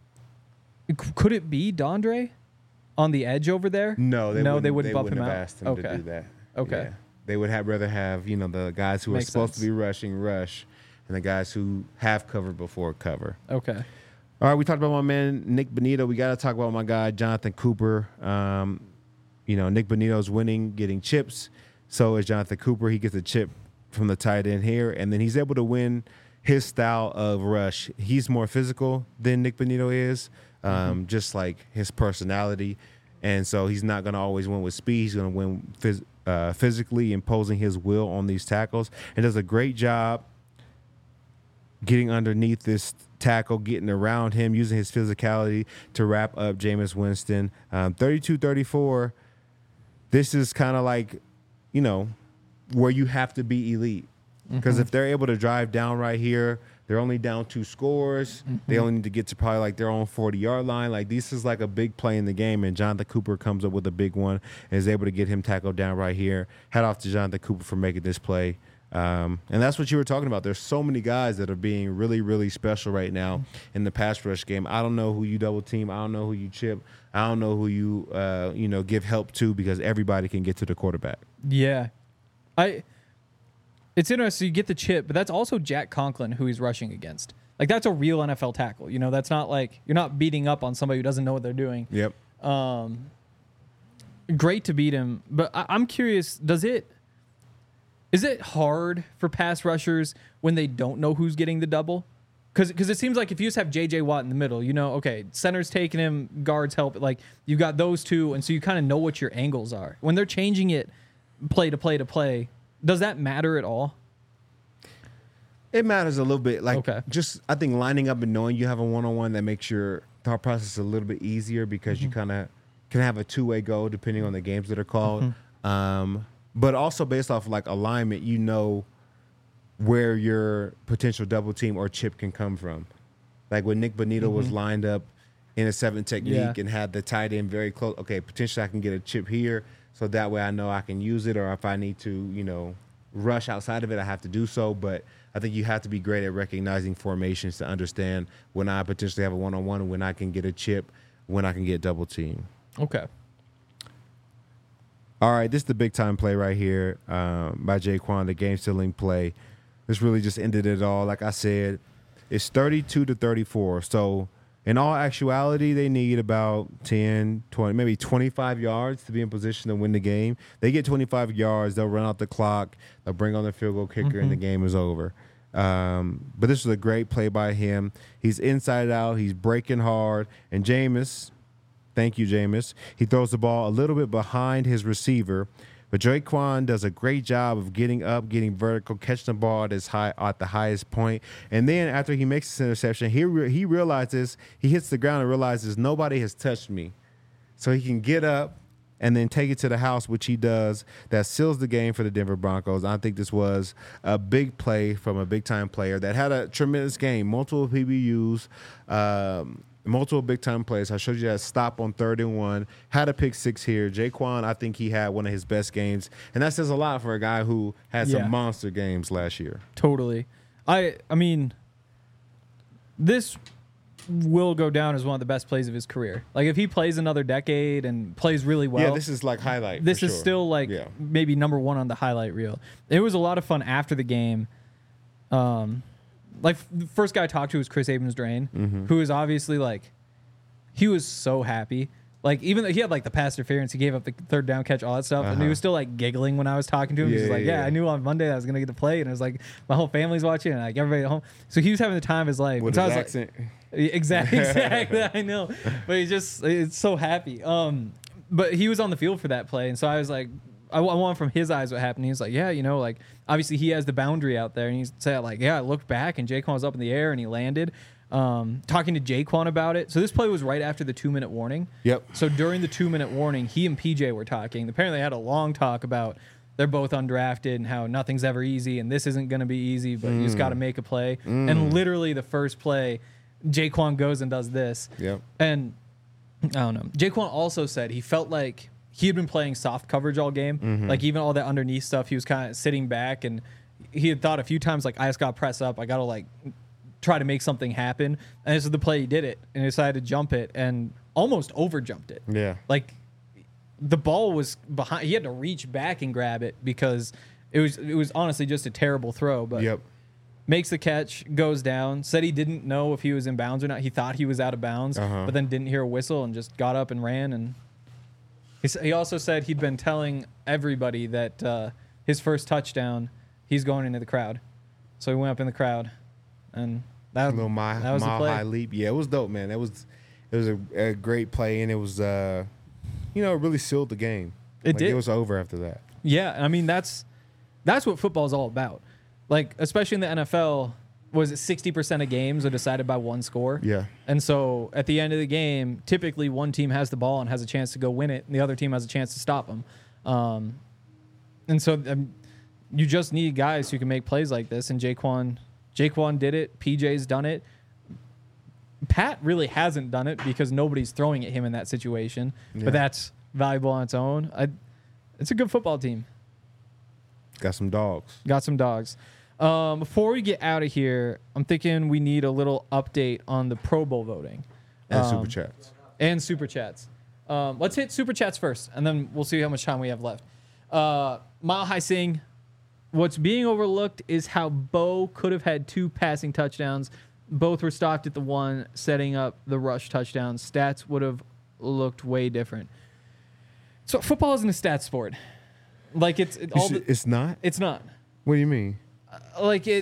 c- could it be Dondre on the edge over there? No, they no, wouldn't, they wouldn't bump wouldn't him have out. asked him okay. to do that. Okay. Yeah. They would have rather have, you know, the guys who Makes are supposed sense. to be rushing rush and the guys who have covered before cover. Okay. All right, we talked about my man Nick Bonito. We got to talk about my guy Jonathan Cooper. Um, you know, Nick Bonito's winning, getting chips. So is Jonathan Cooper. He gets a chip from the tight end here, and then he's able to win his style of rush. He's more physical than Nick Bonito is, um, Mm-hmm. just like his personality. And so he's not going to always win with speed. He's going to win phys- uh, physically, imposing his will on these tackles, and does a great job getting underneath this tackle, getting around him, using his physicality to wrap up Jameis Winston. Um, thirty-two thirty-four, this is kind of like, you know, where you have to be elite. Because if they're able to drive down right here, they're only down two scores. They only need to get to probably like their own forty-yard line. Like, this is like a big play in the game, and Jonathan Cooper comes up with a big one and is able to get him tackled down right here. Head off to Jonathan Cooper for making this play. Um, and that's what you were talking about. There's so many guys that are being really, really special right now in the pass rush game. I don't know who you double team. I don't know who you chip. I don't know who you, uh, you know, give help to because everybody can get to the quarterback. Yeah. I It's interesting you get the chip, but that's also Jack Conklin who he's rushing against. Like, that's a real N F L tackle. You know, that's not like you're not beating up on somebody who doesn't know what they're doing. Yep. Um, great to beat him, but I, I'm curious, does it is it hard for pass rushers when they don't know who's getting the double? Because because it seems like if you just have J J Watt in the middle, you know, okay, center's taking him, guards help. Like, you got those two, and so you kind of know what your angles are. When they're changing it play to play to play, does that matter at all? It matters a little bit. Like, Okay. just, I think lining up and knowing you have a one-on-one that makes your thought process a little bit easier because Mm-hmm. you kind of can have a two-way go depending on the games that are called. Um, but also based off, like, alignment, you know where your potential double team or chip can come from. Like when Nick Bonito was lined up in a seven technique Yeah. and had the tight end very close. Okay, potentially I can get a chip here, so that way I know I can use it, or if I need to, you know, rush outside of it, I have to do so. But I think you have to be great at recognizing formations to understand when I potentially have a one-on-one and when I can get a chip, when I can get double team. Okay. All right, this is the big time play right here um, by Jaquan, the game sealing play. This really just ended it all. Like I said, it's thirty-two to thirty-four. So in all actuality, they need about ten, twenty, maybe twenty-five yards to be in position to win the game. They get twenty-five yards, they'll run out the clock, they'll bring on the field goal kicker, and the game is over. Um, but this was a great play by him. He's inside out, he's breaking hard, and Jameis, thank you, Jameis, he throws the ball a little bit behind his receiver. But Jaquan does a great job of getting up, getting vertical, catching the ball at his high at the highest point. And then after he makes this interception, he re- he realizes he hits the ground and realizes nobody has touched me, so he can get up and then take it to the house, which he does. That seals the game for the Denver Broncos. I think this was a big play from a big time player that had a tremendous game, multiple P B Us. Um, Multiple big-time plays. I showed you that stop on third and one. Had a pick six here. Jaquan, I think he had one of his best games. And that says a lot for a guy who had Yeah. some monster games last year. Totally. I I mean, this will go down as one of the best plays of his career. Like, if he plays another decade and plays really well. yeah, this is like highlight. This for is sure. still like Yeah. maybe number one on the highlight reel. It was a lot of fun after the game. Um, like the first guy I talked to was Chris Abrams-Drain, Mm-hmm. who is obviously like, he was so happy. Like, even though he had like the pass interference, he gave up the third down catch, all that stuff, and he Uh-huh. was still like giggling when I was talking to him. Yeah, He's just like, yeah, yeah, yeah. I knew on Monday I was gonna get to play, and it was like my whole family's watching, and like everybody at home. So he was having the time of his life. With so I his was like- accent. Exactly, exactly. I know, but he's just it's so happy. Um, but he was on the field for that play, and so I was like, I, I want from his eyes what happened. He was like, yeah, you know, like obviously he has the boundary out there, and he said like, yeah, I looked back and Jaquan was up in the air and he landed. Um, talking to Jaquan about it. So this play was right after the two minute warning. Yep. So during the two minute warning, he and P J were talking. Apparently, they had a long talk about they're both undrafted and how nothing's ever easy and this isn't going to be easy, but you just got to make a play. And literally, the first play, Jaquan goes and does this. Yep. And I don't know. Jaquan also said he felt like he had been playing soft coverage all game. Like even all that underneath stuff, he was kind of sitting back, and he had thought a few times like, I just got to press up. I got to like try to make something happen. And this is the play he did it, and he decided to jump it and almost over jumped it. Yeah. Like the ball was behind. He had to reach back and grab it because it was it was honestly just a terrible throw. But Yep. makes the catch, goes down. Said he didn't know if he was in bounds or not. He thought he was out of bounds, Uh-huh. but then didn't hear a whistle and just got up and ran. And he, s- he also said he'd been telling everybody that uh, his first touchdown, he's going into the crowd. So he went up in the crowd, and that, A little mile, that was the mile play. high leap. Yeah, it was dope, man. It was it was a, a great play, and it was uh, you know, it really sealed the game. It Like, did. It was over after that. Yeah, I mean that's that's what football is all about. Like especially in the N F L, was it sixty percent of games are decided by one score? Yeah. And so at the end of the game, typically one team has the ball and has a chance to go win it, and the other team has a chance to stop them. Um, and so um, you just need guys who can make plays like this. And Jaquan, Jaquan did it. P J's done it. Pat really hasn't done it because nobody's throwing at him in that situation. Yeah. But that's valuable on its own. I, it's a good football team. Got some dogs. Got some dogs. Um, before we get out of here, I'm thinking we need a little update on the Pro Bowl voting. And Um, super chats. And super chats. Um, let's hit super chats first, and then we'll see how much time we have left. Uh, Mile High Sing. What's being overlooked is how Bo could have had two passing touchdowns. Both were stopped at the one, setting up the rush touchdown. Stats would have looked way different. So football isn't a stats sport. Like it's it, You all. should- The, it's not? it's not. What do you mean? Like it.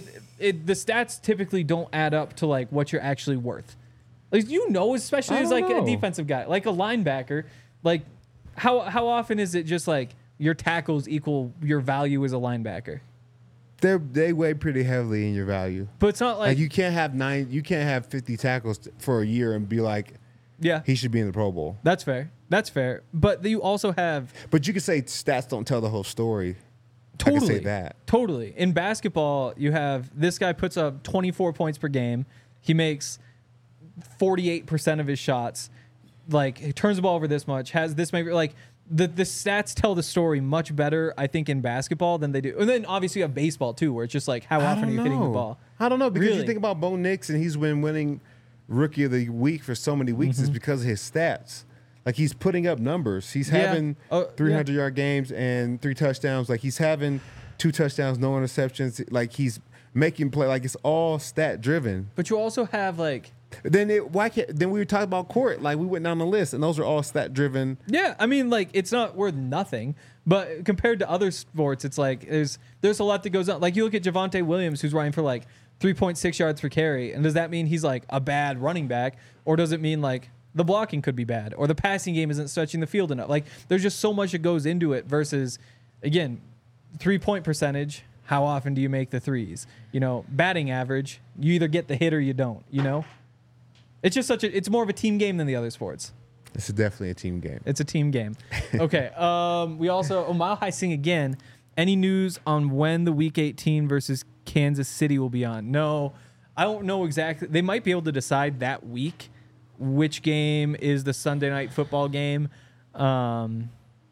it, the stats typically don't add up to like what you're actually worth. Like you know, especially I as don't like know. a defensive guy, like a linebacker. Like how how often is it just like your tackles equal your value as a linebacker? They they weigh pretty heavily in your value. But it's not like, Like you can't have nine, you can't have fifty tackles t- for a year and be like, yeah, he should be in the Pro Bowl. that's fair. That's fair. But you also have But you could say stats don't tell the whole story. totally I can say that. Totally. In basketball, you have this guy puts up twenty-four points per game. He makes forty-eight percent of his shots. Like he turns the ball over this much, has this maybe like the the stats tell the story much better, I think, in basketball than they do. And then obviously you have baseball too, where it's just like how I often are don't you hitting the know. ball? I don't know because Really? you think about Bo Nix and he's been winning Rookie of the Week for so many weeks. Mm-hmm. It's because of his stats. Like he's putting up numbers. He's Yeah. having Oh, three hundred yard games and three touchdowns. Like he's having two touchdowns, no interceptions. Like he's making play. Like it's all stat driven. But you also have like Then it why can't then we were talking about court. Like we went down the list and those are all stat driven. yeah, I mean, like it's not worth nothing, but compared to other sports, it's like there's there's a lot that goes on. Like you look at Javonte Williams, who's running for like three point six yards per carry, and does that mean he's like a bad running back, or does it mean like the blocking could be bad, or the passing game isn't stretching the field enough? Like there's just so much that goes into it. Versus, again, three point percentage. How often do you make the threes? You know, batting average. You either get the hit or you don't. You know. It's just such a. It's more of a team game than the other sports. This is definitely a team game. It's a team game. Okay. Um. We also. Oh, Mile High Sing again. Any news on when the Week eighteen versus Kansas City will be on? No, I don't know exactly. They might be able to decide that week which game is the Sunday night football game. Um.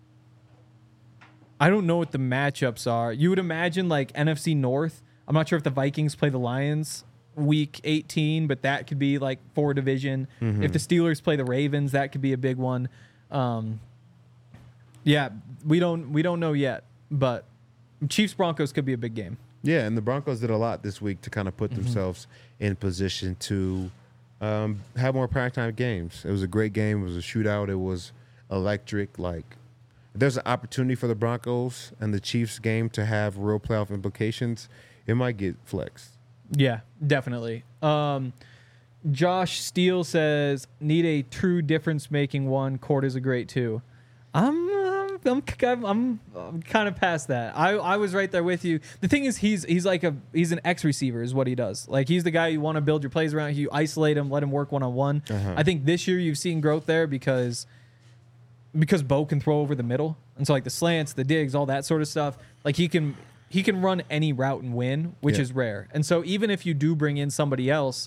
I don't know what the matchups are. You would imagine like N F C North. I'm not sure if the Vikings play the Lions week eighteen, but that could be like for division. If the Steelers play the Ravens, that could be a big one. Um, yeah, we don't we don't know yet, but Chiefs Broncos could be a big game. Yeah, and the Broncos did a lot this week to kind of put Mm-hmm. themselves in position to um, have more primetime games. It was a great game. It was a shootout. It was electric. Like, if there's an opportunity for the Broncos and the Chiefs game to have real playoff implications, it might get flexed. Yeah, definitely. Um, Josh Steele says, need a true difference-making one. Court is a great two. I'm, I'm, I'm, I'm, I'm kind of past that. I, I was right there with you. The thing is, he's he's like a he's an X receiver is what he does. Like he's the guy you want to build your plays around. You isolate him, let him work one on one. I think this year you've seen growth there because because Bo can throw over the middle, and so like the slants, the digs, all that sort of stuff. Like he can. He can run any route and win, which Yeah. is rare. And so even if you do bring in somebody else,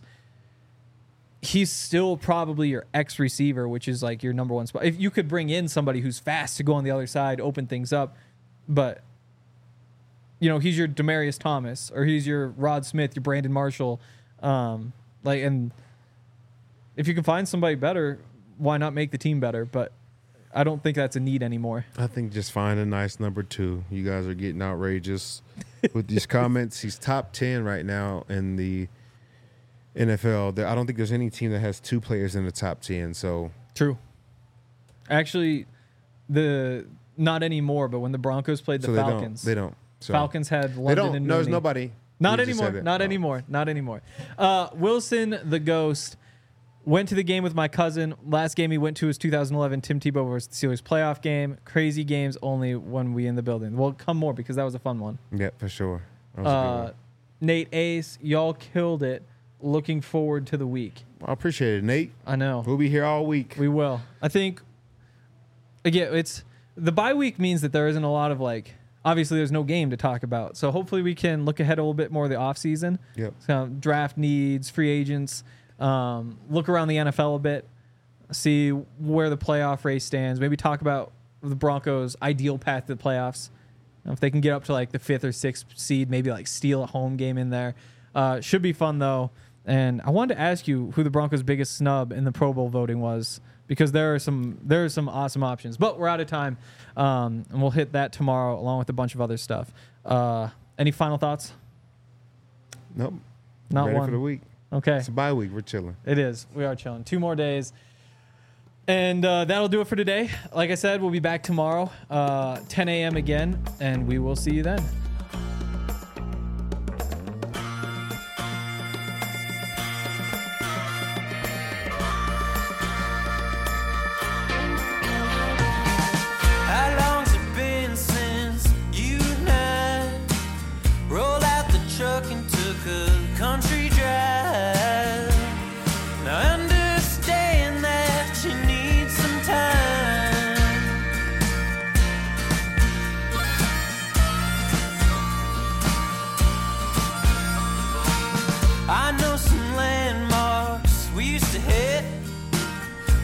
he's still probably your X receiver, which is like your number one spot. If you could bring in somebody who's fast to go on the other side, open things up, but you know, he's your Demaryius Thomas or he's your Rod Smith, your Brandon Marshall. Um, like, and if you can find somebody better, why not make the team better? But I don't think that's a need anymore. I think just find a nice number two. You guys are getting outrageous with these comments. He's top ten right now in the N F L. There, I don't think there's any team that has two players in the top ten. So True. Actually, the not anymore, but when the Broncos played the so they Falcons, don't. They don't. So Falcons had They London don't. and No, there's Mooney. nobody. Not You just anymore. said it. Not Oh. anymore. Not anymore. Uh, Wilson the Ghost went to the game with my cousin. Last game he went to was two thousand eleven Tim Tebow versus the Steelers playoff game. Crazy games only when we in the building. Well, come more because that was a fun one. Yeah, for sure. That was a good Uh, one. Nate Ace, y'all killed it. Looking forward to the week. I appreciate it, Nate. I know. We'll be here all week. We will. I think again, it's the bye week means that there isn't a lot of like obviously there's no game to talk about. So hopefully we can look ahead a little bit more of the offseason. Yep. So draft needs, free agents, um, look around the N F L a bit, see where the playoff race stands, maybe talk about the Broncos' ideal path to the playoffs. You know, if they can get up to like the fifth or sixth seed, maybe like steal a home game in there. Uh, should be fun though. And I wanted to ask you who the Broncos' biggest snub in the Pro Bowl voting was, because there are some there are some awesome options. But we're out of time, um, and we'll hit that tomorrow along with a bunch of other stuff. Uh, any final thoughts? Nope. Not Ready one. for the week. Okay, It's a bye week. We're chilling. it is. We are chilling. Two more days. And uh, that'll do it for today. Like I said, we'll be back tomorrow, uh, ten a.m. again, and we will see you then.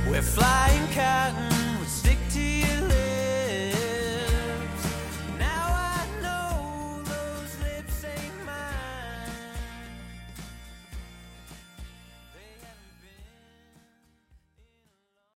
We're flying cat and